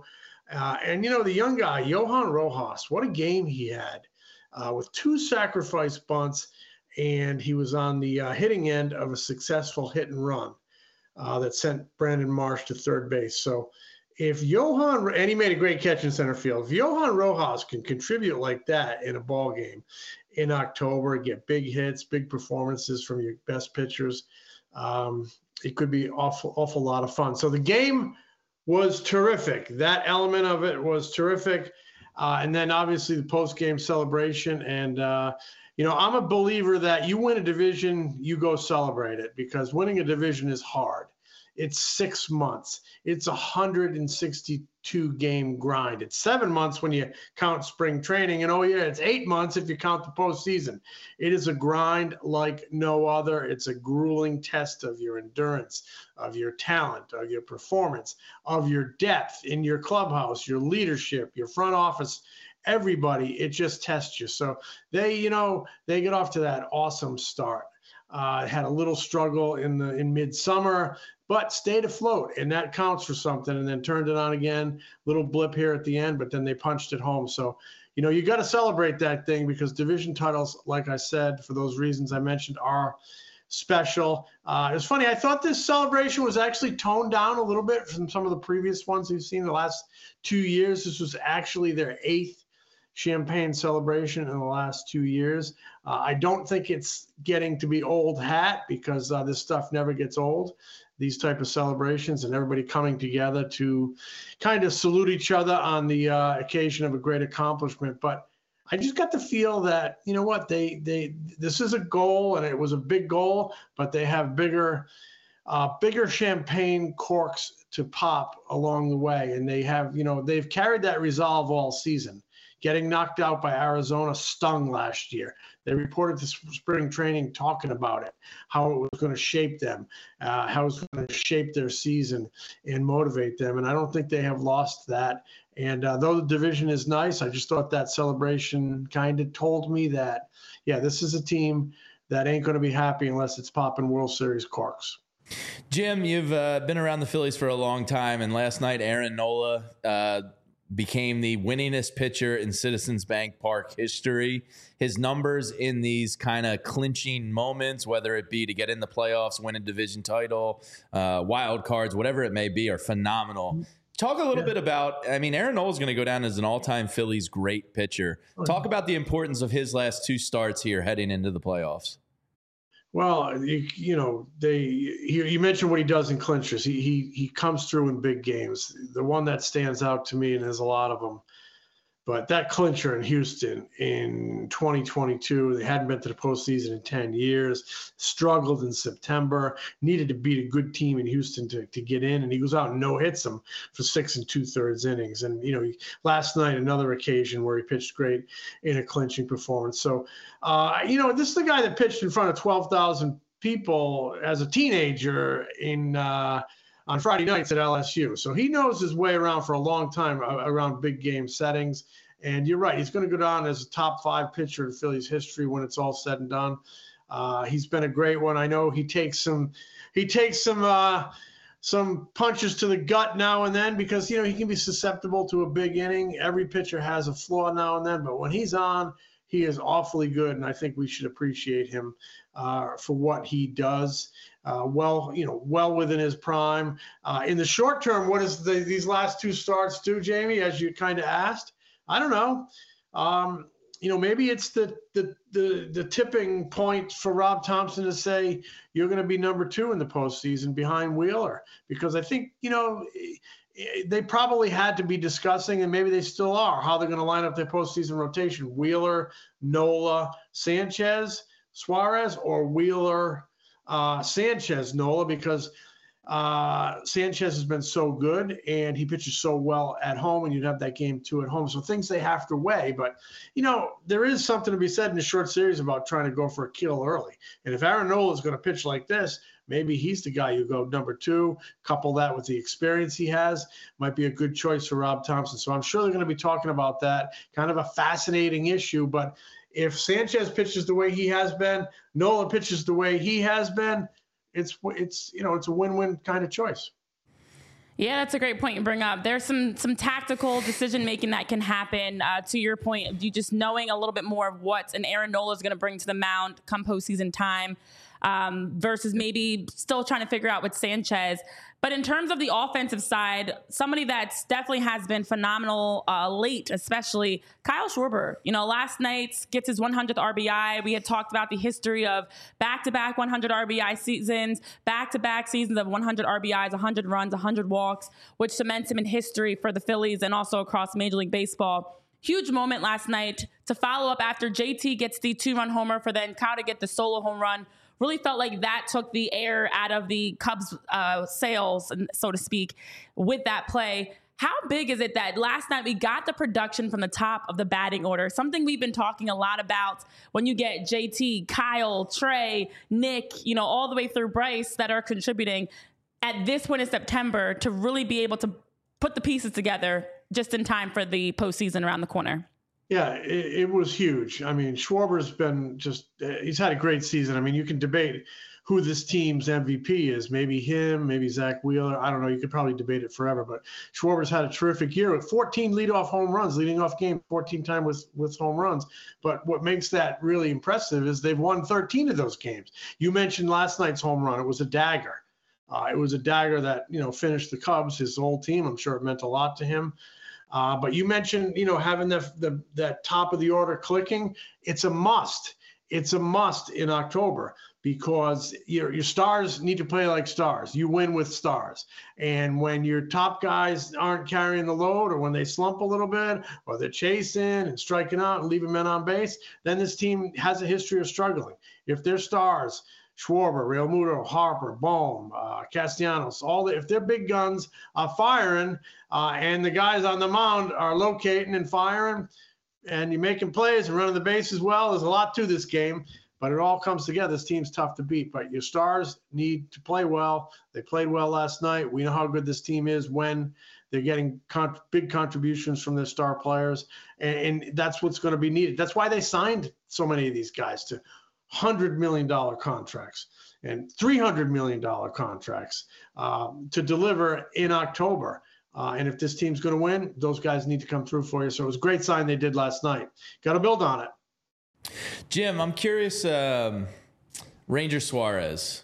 Uh, and, you know, the young guy, Johan Rojas, what a game he had uh, with two sacrifice bunts, and he was on the uh, hitting end of a successful hit and run uh, that sent Brandon Marsh to third base. So if Johan, and he made a great catch in center field, if Johan Rojas can contribute like that in a ball game in October, get big hits, big performances from your best pitchers, um, it could be awful, awful lot of fun. So the game was terrific. That element of it was terrific. Uh, and then obviously the post-game celebration. And, uh, you know, I'm a believer that you win a division, you go celebrate it, because winning a division is hard. It's six months. It's a one hundred sixty-two game grind. It's seven months when you count spring training. And, oh, yeah, it's eight months if you count the postseason. It is a grind like no other. It's a grueling test of your endurance, of your talent, of your performance, of your depth in your clubhouse, your leadership, your front office, everybody. It just tests you. So they, you know, they get off to that awesome start. Uh, had a little struggle in the in midsummer, but stayed afloat, and that counts for something. And then turned it on again, little blip here at the end, but then they punched it home. So, you know, you got to celebrate that thing, because division titles, like I said, for those reasons I mentioned, are special. Uh, it was funny. I thought this celebration was actually toned down a little bit from some of the previous ones we've seen the last two years. This was actually their eighth champagne celebration in the last two years. Uh, I don't think it's getting to be old hat, because uh, this stuff never gets old, these type of celebrations, and everybody coming together to kind of salute each other on the uh, occasion of a great accomplishment. But I just got the feel that, you know what, they they this is a goal, and it was a big goal, but they have bigger uh, bigger champagne corks to pop along the way. And they have, you know, they've carried that resolve all season. Getting knocked out by Arizona stung last year. They reported to spring training talking about it, how it was going to shape them, uh, how it was going to shape their season and motivate them. And I don't think they have lost that. And uh, though the division is nice, I just thought that celebration kind of told me that, yeah, this is a team that ain't going to be happy unless it's popping World Series corks. Jim, you've uh, been around the Phillies for a long time, and last night Aaron Nola uh, became the winningest pitcher in Citizens Bank Park history. His numbers in these kind of clinching moments, whether it be to get in the playoffs, win a division title, uh, wild cards, whatever it may be, are phenomenal. Talk a little yeah. bit about, I mean, Aaron Nola is going to go down as an all-time Phillies great pitcher. Talk about the importance of his last two starts here heading into the playoffs. Well, you, you know, they he, you mentioned what he does in clinchers. He, he he comes through in big games. The one that stands out to me, and there's a lot of them, but that clincher in Houston in twenty twenty-two, they hadn't been to the postseason in ten years, struggled in September, needed to beat a good team in Houston to, to get in, and he goes out and no-hits them for six and two-thirds innings. And, you know, last night, another occasion where he pitched great in a clinching performance. So, uh, you know, this is the guy that pitched in front of twelve thousand people as a teenager in uh, on Friday nights at L S U. So he knows his way around for a long time around big game settings. And you're right, he's going to go down as a top five pitcher in Phillies history when it's all said and done. Uh, he's been a great one. I know he takes some, he takes some, uh, some punches to the gut now and then, because, you know, he can be susceptible to a big inning. Every pitcher has a flaw now and then, but when he's on, he is awfully good, and I think we should appreciate him uh, for what he does. Uh, well, you know, well within his prime. Uh, in the short term, what does the, these last two starts do, Jamie, as you kind of asked? I don't know. Um, you know, maybe it's the, the the the tipping point for Rob Thompson to say you're going to be number two in the postseason behind Wheeler, because I think, you know, they probably had to be discussing, and maybe they still are, how they're going to line up their postseason rotation: Wheeler, Nola, Sanchez, Suarez, or Wheeler, uh, Sanchez, Nola, because Uh, Sanchez has been so good, and he pitches so well at home, and you'd have that game two at home. So things they have to weigh. But, you know, there is something to be said in a short series about trying to go for a kill early. And if Aaron Nola is going to pitch like this, maybe he's the guy you go number two. Couple that with the experience he has, might be a good choice for Rob Thompson. So I'm sure they're going to be talking about that. Kind of a fascinating issue. But if Sanchez pitches the way he has been, Nola pitches the way he has been, It's, it's you know, it's a win-win kind of choice. Yeah, that's a great point you bring up. There's some some tactical decision making that can happen. Uh, to your point of you just knowing a little bit more of what an Aaron Nola is going to bring to the mound come postseason time, um, versus maybe still trying to figure out with Sanchez. But in terms of the offensive side, somebody that's definitely has been phenomenal uh, late, especially Kyle Schwarber. You know, last night gets his one hundredth R B I. We had talked about the history of back-to-back one hundred R B I seasons, back-to-back seasons of one hundred R B Is, one hundred runs, one hundred walks, which cements him in history for the Phillies and also across Major League Baseball. Huge moment last night to follow up after J T gets the two-run homer for then Kyle to get the solo home run. Really felt like that took the air out of the Cubs' uh, sails, so to speak, with that play. How big is it that last night we got the production from the top of the batting order? Something we've been talking a lot about when you get J T, Kyle, Trey, Nick, you know, all the way through Bryce that are contributing at this point in September to really be able to put the pieces together just in time for the postseason around the corner. Yeah, it, it was huge. I mean, Schwarber's been just, uh, he's had a great season. I mean, you can debate who this team's M V P is. Maybe him, maybe Zach Wheeler. I don't know. You could probably debate it forever. But Schwarber's had a terrific year with fourteen leadoff home runs, leading off game fourteen times with, with home runs. But what makes that really impressive is they've won thirteen of those games. You mentioned last night's home run. It was a dagger. Uh, it was a dagger that, you know, finished the Cubs, his whole team. I'm sure it meant a lot to him. Uh, but you mentioned, you know, having the, the that top of the order clicking. It's a must. It's a must in October because your your stars need to play like stars. You win with stars. And when your top guys aren't carrying the load, or when they slump a little bit, or they're chasing and striking out and leaving men on base, then this team has a history of struggling. If their stars, Schwarber, Realmuto, Harper, Bohm, uh, Castellanos, all the, if their big guns are firing uh, and the guys on the mound are locating and firing and you're making plays and running the base as well, there's a lot to this game, but it all comes together. This team's tough to beat, but your stars need to play well. They played well last night. We know how good this team is when they're getting con- big contributions from their star players, and, and that's what's going to be needed. That's why they signed so many of these guys to one hundred million dollars contracts and three hundred million dollars contracts um, to deliver in October. Uh, and if this team's going to win, those guys need to come through for you. So it was a great sign they did last night. Got to build on it. Jim, I'm curious, um, Ranger Suarez,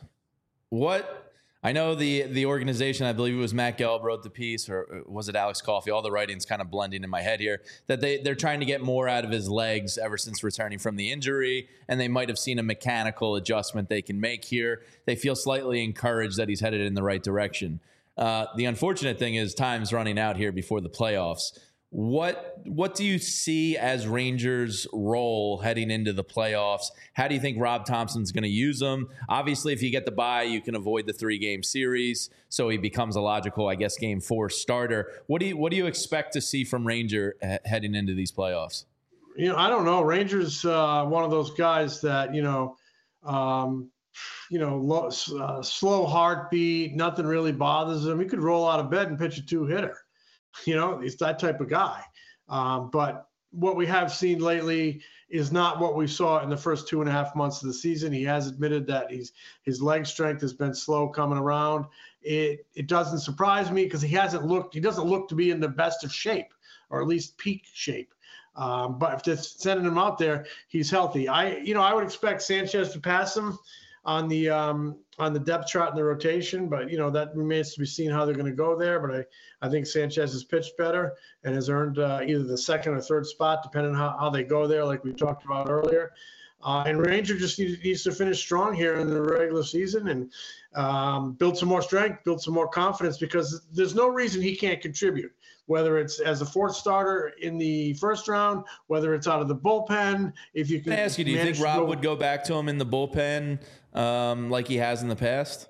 what – I know the the organization, I believe it was Matt Gelb wrote the piece, or was it Alex Coffey? All the writing's kind of blending in my head here, that they, they're trying to get more out of his legs ever since returning from the injury, and they might have seen a mechanical adjustment they can make here. They feel slightly encouraged that he's headed in the right direction. Uh, the unfortunate thing is time's running out here before the playoffs. What what do you see as Rangers' role heading into the playoffs? How do you think Rob Thompson's going to use them? Obviously, if you get the bye, you can avoid the three-game series, so he becomes a logical, I guess, game four starter. What do you what do you expect to see from Ranger he- heading into these playoffs? You know, I don't know. Rangers, uh, one of those guys that you know, um, you know, low, uh, slow heartbeat, nothing really bothers him. He could roll out of bed and pitch a two-hitter. You know, he's that type of guy. Um, but what we have seen lately is not what we saw in the first two and a half months of the season. He has admitted that he's his leg strength has been slow coming around. It it doesn't surprise me because he hasn't looked. He doesn't look to be in the best of shape, or at least peak shape. Um, but if just sending him out there, he's healthy. I you know I would expect Sanchez to pass him on the um, on the depth chart in the rotation, but you know that remains to be seen how they're going to go there. But I, I think Sanchez has pitched better and has earned uh, either the second or third spot, depending on how, how they go there, like we talked about earlier. Uh, and Ranger just needs, needs to finish strong here in the regular season and um, build some more strength, build some more confidence, because there's no reason he can't contribute, whether it's as a fourth starter in the first round, whether it's out of the bullpen. If you can, Can I ask you, do you think Rob go, would go back to him in the bullpen um, like he has in the past?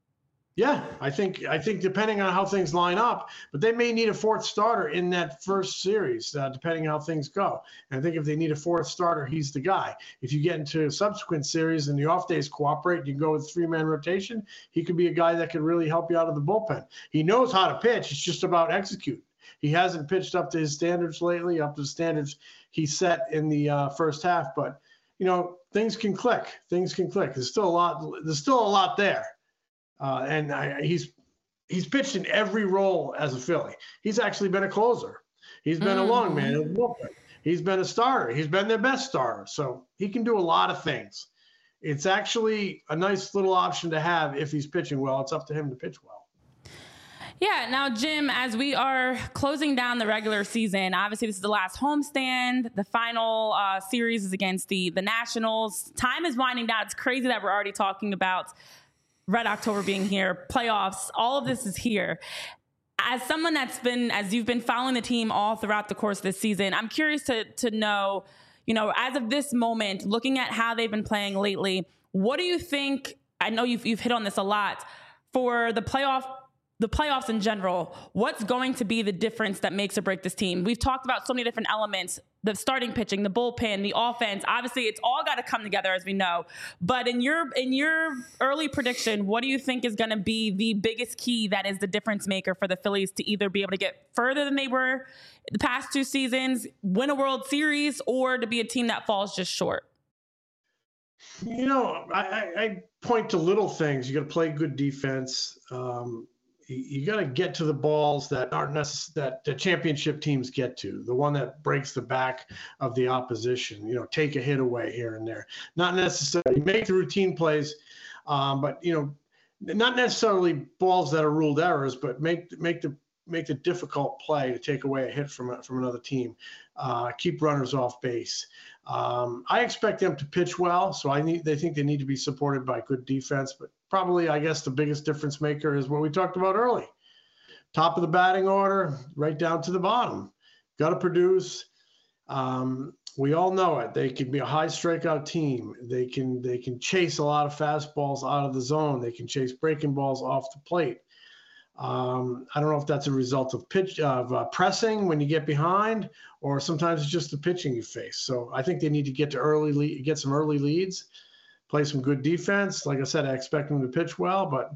Yeah, I think I think depending on how things line up, but they may need a fourth starter in that first series, uh, depending on how things go. And I think if they need a fourth starter, he's the guy. If you get into a subsequent series and the off days cooperate, you can go with three-man rotation, he could be a guy that could really help you out of the bullpen. He knows how to pitch. It's just about executing. He hasn't pitched up to his standards lately, up to the standards he set in the uh, first half. But, you know, things can click. Things can click. There's still a lot. There's still a lot there. Uh, and I, he's he's pitched in every role as a Philly. He's actually been a closer. He's been mm. a long man in the bullpen. He's been a starter. He's been their best starter. So he can do a lot of things. It's actually a nice little option to have if he's pitching well. It's up to him to pitch well. Yeah. Now, Jim, as we are closing down the regular season, obviously this is the last homestand. The final uh, series is against the, the Nationals. Time is winding down. It's crazy that we're already talking about Red October being here, playoffs. All of this is here. As someone that's been, as you've been following the team all throughout the course of this season, I'm curious to to know, you know, as of this moment, looking at how they've been playing lately, what do you think? I know you've you've hit on this a lot for the playoff. The playoffs in general, what's going to be the difference that makes or break this team? We've talked about so many different elements, the starting pitching, the bullpen, the offense. Obviously, it's all got to come together, as we know. But in your in your early prediction, what do you think is going to be the biggest key that is the difference maker for the Phillies to either be able to get further than they were the past two seasons, win a World Series, or to be a team that falls just short? You know, I, I point to little things. You got to play good defense. Um, You got to get to the balls that aren't necess- that the championship teams get to, the one that breaks the back of the opposition. You know, take a hit away here and there. Not necessarily make the routine plays, um, but you know, not necessarily balls that are ruled errors, but make make the make the difficult play to take away a hit from a, from another team. Uh, keep runners off base. Um, I expect them to pitch well, so I need. They think they need to be supported by good defense. But probably, I guess, the biggest difference maker is what we talked about early: top of the batting order, right down to the bottom. Got to produce. Um, we all know it. They can be a high strikeout team. They can they can chase a lot of fastballs out of the zone. They can chase breaking balls off the plate. Um, I don't know if that's a result of pitch of uh, pressing when you get behind, or sometimes it's just the pitching you face. So I think they need to get to early lead, get some early leads, play some good defense. Like I said, I expect them to pitch well, but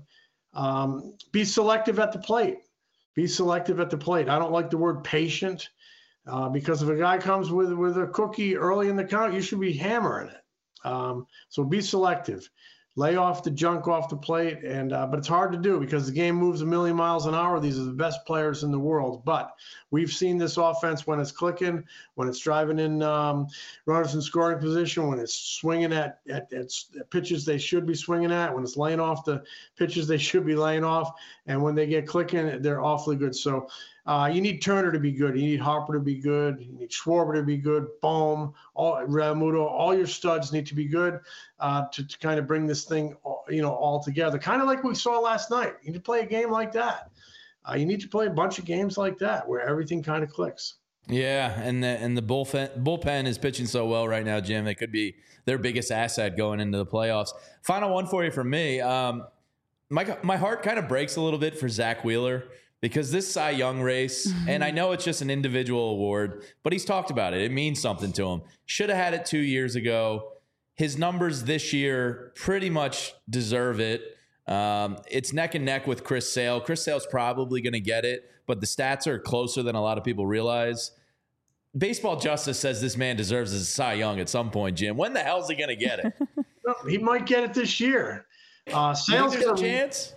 um, be selective at the plate. Be selective at the plate. I don't like the word patient uh, because if a guy comes with with a cookie early in the count, you should be hammering it. Um, so be selective. Lay off the junk off the plate, and uh, but it's hard to do because the game moves a million miles an hour. These are the best players in the world, but we've seen this offense when it's clicking, when it's driving in um, runners in scoring position, when it's swinging at, at, at pitches they should be swinging at, when it's laying off the pitches they should be laying off, and when they get clicking, they're awfully good. So uh, you need Turner to be good. You need Harper to be good. You need Schwarber to be good. Bohm, all Realmuto, all your studs need to be good uh, to, to kind of bring this thing, you know, all together. Kind of like we saw last night. You need to play a game like that. Uh, you need to play a bunch of games like that where everything kind of clicks. Yeah, and the and the bullpen bullpen is pitching so well right now, Jim. It could be their biggest asset going into the playoffs. Final one for you from me. Um, my my heart kind of breaks a little bit for Zach Wheeler because this Cy Young race, mm-hmm. and I know it's just an individual award, but he's talked about it. It means something to him. Should have had it two years ago. His numbers this year pretty much deserve it. Um, it's neck and neck with Chris Sale. Chris Sale's probably going to get it, but the stats are closer than a lot of people realize. Baseball Justice says this man deserves a Cy Young at some point, Jim. When the hell is he going to get it? He might get it this year. Uh, Sale's got a chance.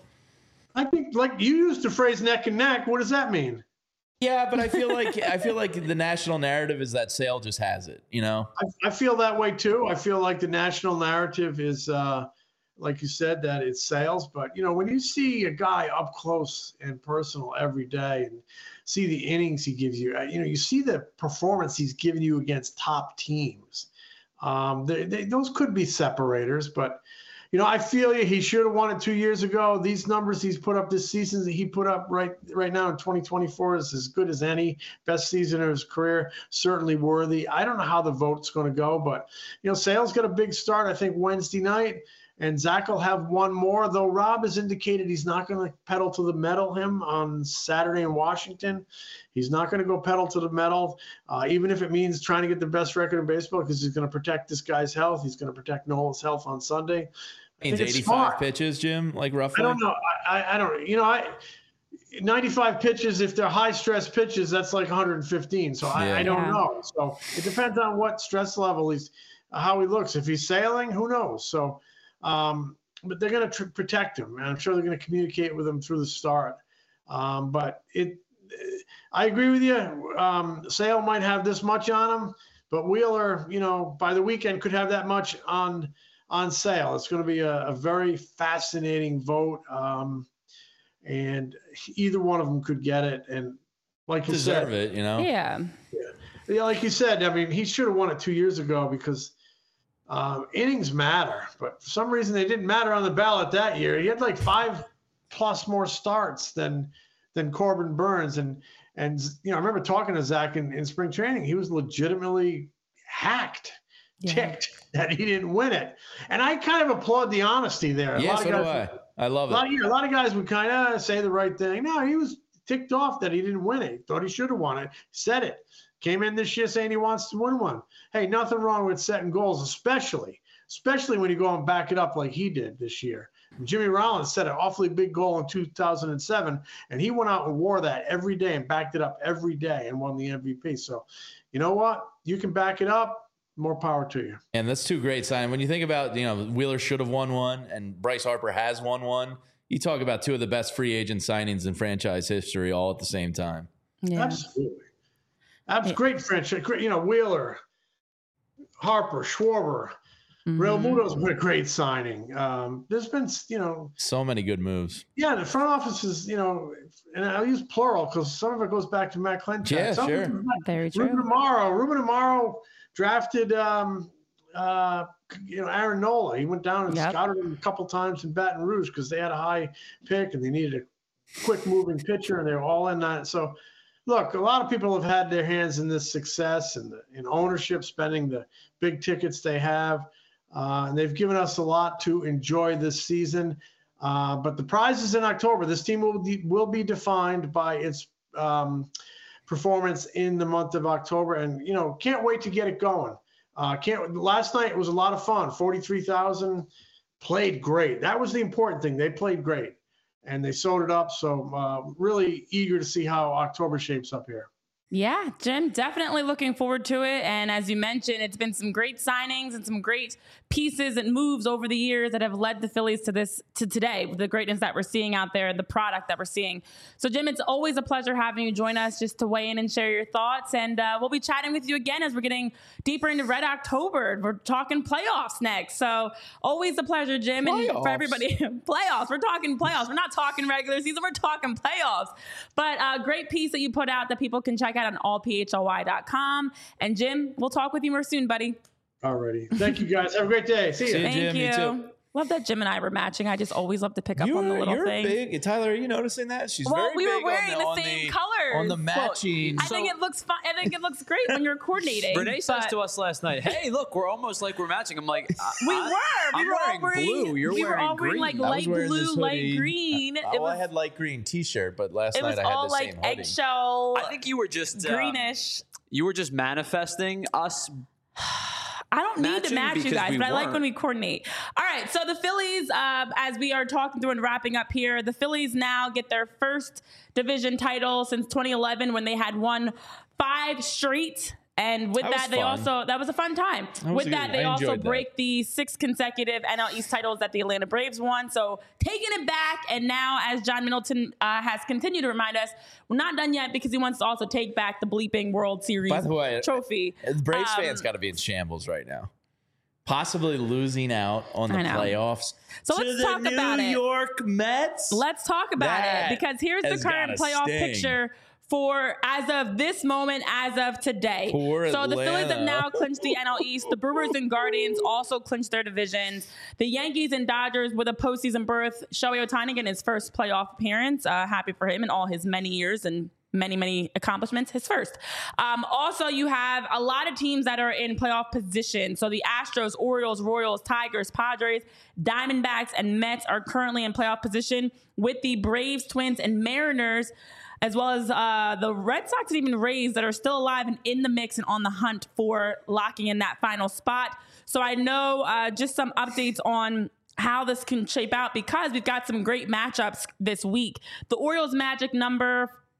I think, like you used the phrase "neck and neck." What does that mean? Yeah, but I feel like I feel like the national narrative is that Sale just has it. You know, I, I feel that way too. I feel like the national narrative is, uh, like you said, that it's Sales. But you know, when you see a guy up close and personal every day, and see the innings he gives you, you know, you see the performance he's giving you against top teams. Um, they, they, those could be separators, but. You know, I feel you. He should have won it two years ago. These numbers he's put up this season that he put up right right now in twenty twenty-four is as good as any. Best season of his career, certainly worthy. I don't know how the vote's going to go, but, you know, Sale's got a big start, I think, Wednesday night, and Zach will have one more, though Rob has indicated he's not going to pedal to the metal him on Saturday in Washington. He's not going to go pedal to the metal, uh, even if it means trying to get the best record in baseball because he's going to protect this guy's health. He's going to protect Nolan's health on Sunday. Means eighty-five pitches, Jim, like roughly. I don't know. I, I don't. You know, I ninety-five pitches. If they're high stress pitches, that's like one hundred fifteen. So I, yeah. I don't yeah. know. So it depends on what stress level he's, how he looks. If he's sailing, who knows? So um, but they're going to tr- protect him, and I'm sure they're going to communicate with him through the start. Um, but it, I agree with you. Um, Sale might have this much on him, but Wheeler, you know, by the weekend could have that much on on Sale. It's going to be a, a very fascinating vote, um, and either one of them could get it. And like you Deserve said, it, you know. Yeah. yeah, yeah, like you said, I mean, he should have won it two years ago because um, innings matter. But for some reason, they didn't matter on the ballot that year. He had like five plus more starts than than Corbin Burnes, and and you know, I remember talking to Zach in, in spring training. He was legitimately hacked. Yeah. Ticked that he didn't win it, and I kind of applaud the honesty there. A Yeah, lot so of do guys, I. I love a lot, it. of, yeah, a lot of guys would kind of say the right thing. No, he was ticked off that he didn't win it. Thought he should have won it. Said it. Came in this year saying he wants to win one. Hey, nothing wrong with setting goals, especially, especially when you go and back it up like he did this year. Jimmy Rollins set an awfully big goal in two thousand seven, and he went out and wore that every day and backed it up every day and won the M V P. So, you know what? You can back it up. More power to you. And that's two great signs. When you think about, you know, Wheeler should have won one and Bryce Harper has won one, you talk about two of the best free agent signings in franchise history all at the same time. Yeah. Absolutely. That's great franchise. You know, Wheeler, Harper, Schwarber, Mhm. Real Muto's been a great signing. Um, there's been, you know, So many good moves. yeah, the front office is, you know, and I'll use plural because some of it goes back to Matt Clinton. Yeah, Some sure. of it goes back- Very true. Ruben Amaro. Ruben Amaro drafted, um, uh, you know, Aaron Nola. He went down and Yep. scouted him a couple times in Baton Rouge because they had a high pick and they needed a quick moving pitcher, and they were all in that. So, look, a lot of people have had their hands in this success and in ownership, spending the big tickets they have, uh, and they've given us a lot to enjoy this season. Uh, but the prize is in October. This team will be, will be defined by its um, performance in the month of October, and you know, can't wait to get it going. Uh, can't. Last night was a lot of fun. forty-three thousand played great. That was the important thing. They played great, and they sewed it up. So uh, really eager to see how October shapes up here. Yeah, Jim, definitely looking forward to it. And as you mentioned, it's been some great signings and some great pieces and moves over the years that have led the Phillies to this, to today, with the greatness that we're seeing out there, the product that we're seeing. So, Jim, it's always a pleasure having you join us just to weigh in and share your thoughts. And uh, we'll be chatting with you again as we're getting deeper into Red October. We're talking playoffs next. So, always a pleasure, Jim. And for Playoffs. everybody, playoffs. We're talking playoffs. We're not talking regular season. We're talking playoffs. But a uh, great piece that you put out that people can check out on all p h l y dot com. And Jim, we'll talk with you more soon, buddy. Alrighty. Thank you guys. Have a great day. See you. See you. Thank Jim, you. you too. Love that Jim and I were matching. I just always love to pick up on the You're, little you're things. big. Tyler, are you noticing that? She's Well, very we were big wearing on the, the, on same the, colors. on the matching. I think it looks fun. I think it looks great when you're coordinating. Renee says but to us last night, "Hey, look, we're almost like we're matching." I'm like, I, we I, were. We I'm were all wearing wearing blue. You're we were wearing all wearing like green. I was light wearing this blue, light hoodie. green. Oh, It was I had light green t-shirt, but last it night was I had all the like same hoodie. eggshell, I think you were just uh, greenish. you were just manifesting us. I don't need to matching match you because guys, we but I like weren't. when we coordinate. All right, so the Phillies, uh, as we are talking through and wrapping up here, the Phillies now get their first division title since twenty eleven when they had won five straight. And with That that, was they fun. also, that was a fun time. was With a that, good- they I also enjoyed that. break the six consecutive N L East titles that the Atlanta Braves won. So taking it back. And now, as John Middleton uh, has continued to remind us, we're not done yet because he wants to also take back the bleeping World Series By the way, trophy. The Braves Um, fans got to be in shambles right now. Possibly losing out on the I know. playoffs. So to let's the talk New about it. Let's Mets. Let's talk about That it because here's the has current gotta playoff sting. picture for as of this moment, as of today. Poor so the Phillies have Atlanta. now clinched the N L East. The Brewers and Guardians also clinched their divisions. The Yankees and Dodgers with a postseason berth. Shohei Ohtani in his first playoff appearance. Uh, happy for him and all his many years and many, many accomplishments. His first. Um, also, you have a lot of teams that are in playoff position. So the Astros, Orioles, Royals, Tigers, Padres, Diamondbacks, and Mets are currently in playoff position with the Braves, Twins, and Mariners, as well as uh, the Red Sox and even Rays that are still alive and in the mix and on the hunt for locking in that final spot. So I know uh, just some updates on how this can shape out because we've got some great matchups this week. The Orioles magic number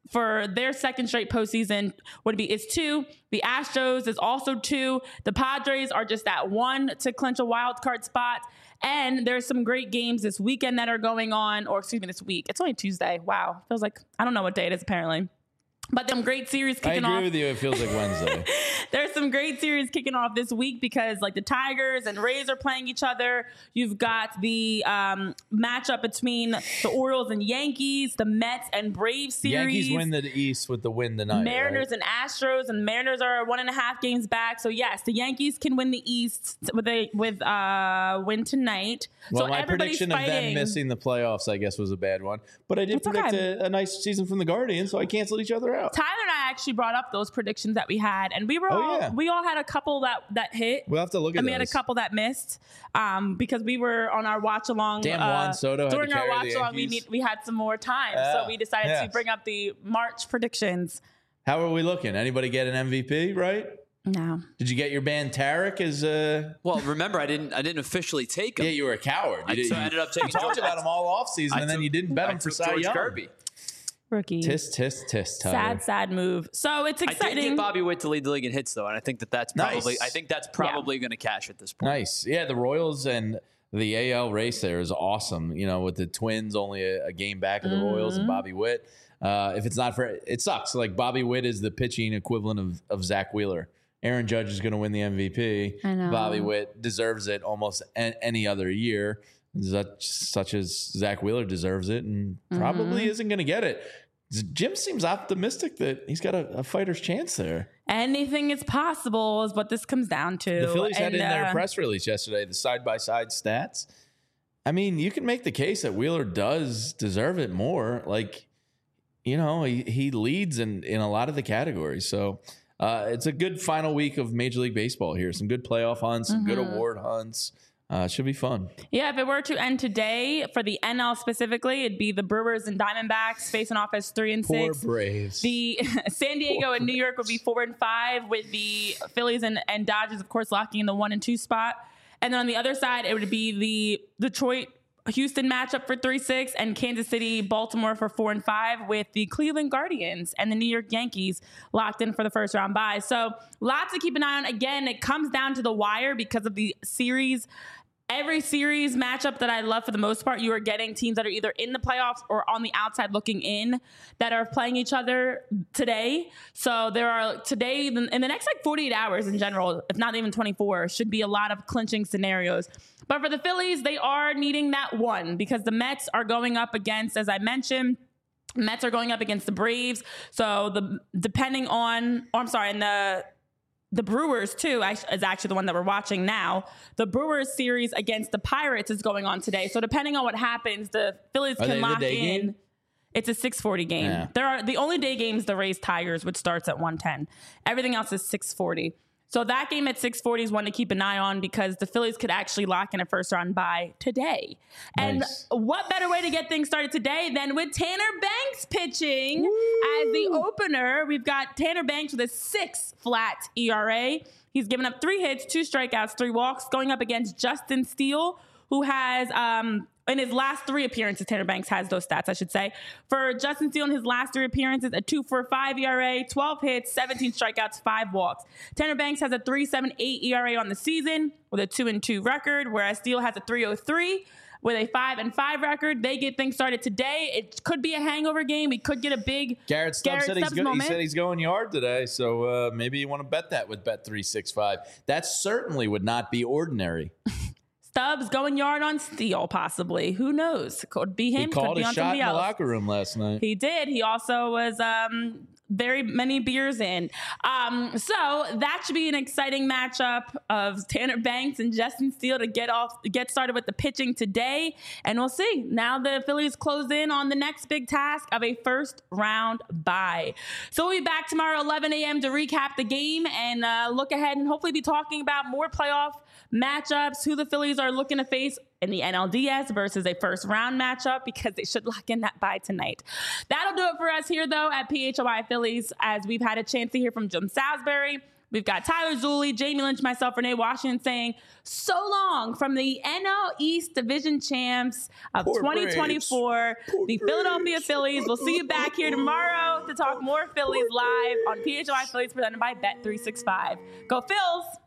for their second straight postseason would be is two. The Astros is also two. The Padres are just at one to clinch a wild card spot. And there's some great games this weekend that are going on, or excuse me, this week. It's only Tuesday. Wow. Feels like, I don't know what day it is apparently. But them great series kicking off. I agree off. with you. It feels like Wednesday. There's some great series kicking off this week because like the Tigers and Rays are playing each other. You've got the um, matchup between the Orioles and Yankees, the Mets and Braves series. Yankees win the East with the win tonight. Mariners right? and Astros, and Mariners are one and a half games back. So yes, the Yankees can win the East with a with uh win tonight. Well, so my prediction fighting. of them missing the playoffs, I guess, was a bad one. But I did It's predict okay. a, a nice season from the Guardians, so I canceled each other out. Tyler and I actually brought up those predictions that we had, and we were Oh, all yeah. we all had a couple that that hit. We'll have to look at and we had a those. couple that missed um, because we were on our watch along. Damn, uh, Juan Soto had to during our carry watch the along, we Yankees. need we had some more time, Yeah. so we decided Yeah. to bring up the March predictions. How are we looking? Anybody get an M V P, right? No, Did you get your band Tarek as uh Well, remember, I didn't I didn't officially take him. Yeah, you were a coward. You I, did, so I you, ended up taking you talked George- about him all off season, I and then took- you didn't bet I him for took Cy George Young. Kirby. rookie. Tisk, tisk, tisk, Tyler. Sad, sad move. So it's I did exciting. get Bobby Witt to lead the league in hits, though, and I think that that's probably Nice. I think that's probably going to cash at this point. Nice. Yeah, the Royals and the A L race there is awesome. You know, with the Twins only a, a game back of the Royals and Bobby Witt. Uh, if it's not for it sucks. Like Bobby Witt is the pitching equivalent of, of Zach Wheeler. Aaron Judge is going to win the M V P. I know. Bobby Witt deserves it almost a- any other year, such, such as Zach Wheeler deserves it, and probably isn't going to get it. Jim seems optimistic that he's got a, a fighter's chance there. Anything is possible is what this comes down to. The Phillies had And, in their uh, press release yesterday the side by side stats. I mean, you can make the case that Wheeler does deserve it more. Like, you know, he, he leads in, in a lot of the categories. So uh, it's a good final week of Major League Baseball here. Some good playoff hunts, some good award hunts. Uh, it should be fun. Yeah, if it were to end today for the N L specifically, it'd be the Brewers and Diamondbacks facing off as three and Poor six. Braves. The San Diego and New York would be four and five, with the Phillies and, and Dodgers, of course, locking in the one and two spot. And then on the other side, it would be the Detroit Houston matchup for three six and Kansas City Baltimore for four and five, with the Cleveland Guardians and the New York Yankees locked in for the first round bye. So lots to keep an eye on. Again, it comes down to the wire because of the series. Every series matchup that I love for the most part, you are getting teams that are either in the playoffs or on the outside looking in that are playing each other today. So there are today in the next like forty-eight hours in general, if not even twenty-four, should be a lot of clinching scenarios. But for the Phillies, they are needing that one because the Mets are going up against, as I mentioned, Mets are going up against the Braves. So the depending on, oh, I'm sorry, and the The Brewers, too, is actually the one that we're watching now. The Brewers series against the Pirates is going on today. So depending on what happens, the Phillies Are can they the lock day in. game? It's a six forty game. Yeah. There are the only day games the Rays Tigers, which starts at one ten. Everything else is six forty. So that game at six forty is one to keep an eye on because the Phillies could actually lock in a first round bye today. And Nice. what better way to get things started today than with Tanner Banks pitching as the opener? We've got Tanner Banks with a six flat E R A. He's given up three hits, two strikeouts, three walks, going up against Justin Steele, who has, um, in his last three appearances, Tanner Banks has those stats, I should say. For Justin Steele in his last three appearances, a two point four five E R A, twelve hits, seventeen strikeouts, five walks. Tanner Banks has a three point seven eight E R A on the season with a two and two record, whereas Steele has a three point oh three with a five and five record. They get things started today. It could be a hangover game. We could get a big Garrett Stubbs Garrett said, he's Stubbs go- he moment. said he's going yard today, so uh, maybe you want to bet that with Bet three sixty-five. That certainly would not be ordinary. Stubbs going yard on Steele, possibly. Who knows? Could be him. He could called be a on shot somebody in the else. locker room last night. He did. He also was um, very many beers in. Um, so that should be an exciting matchup of Tanner Banks and Justin Steele to get off, get started with the pitching today. And we'll see. Now the Phillies close in on the next big task of a first round bye. So we'll be back tomorrow, eleven a.m. to recap the game and uh, look ahead and hopefully be talking about more playoff matchups, who the Phillies are looking to face in the N L D S versus a first round matchup, because they should lock in that bye tonight. That'll do it for us here, though, at P H O I Phillies, as we've had a chance to hear from Jim Salisbury. We've got Tyler Zulli, Jamie Lynch, myself, Renee Washington saying so long from the N L East Division champs of Poor twenty twenty-four, Braves. the Poor Philadelphia Braves. Phillies. We'll see you back here tomorrow to to talk more Phillies live on P H L I Phillies presented by Bet three sixty-five. Go Phils!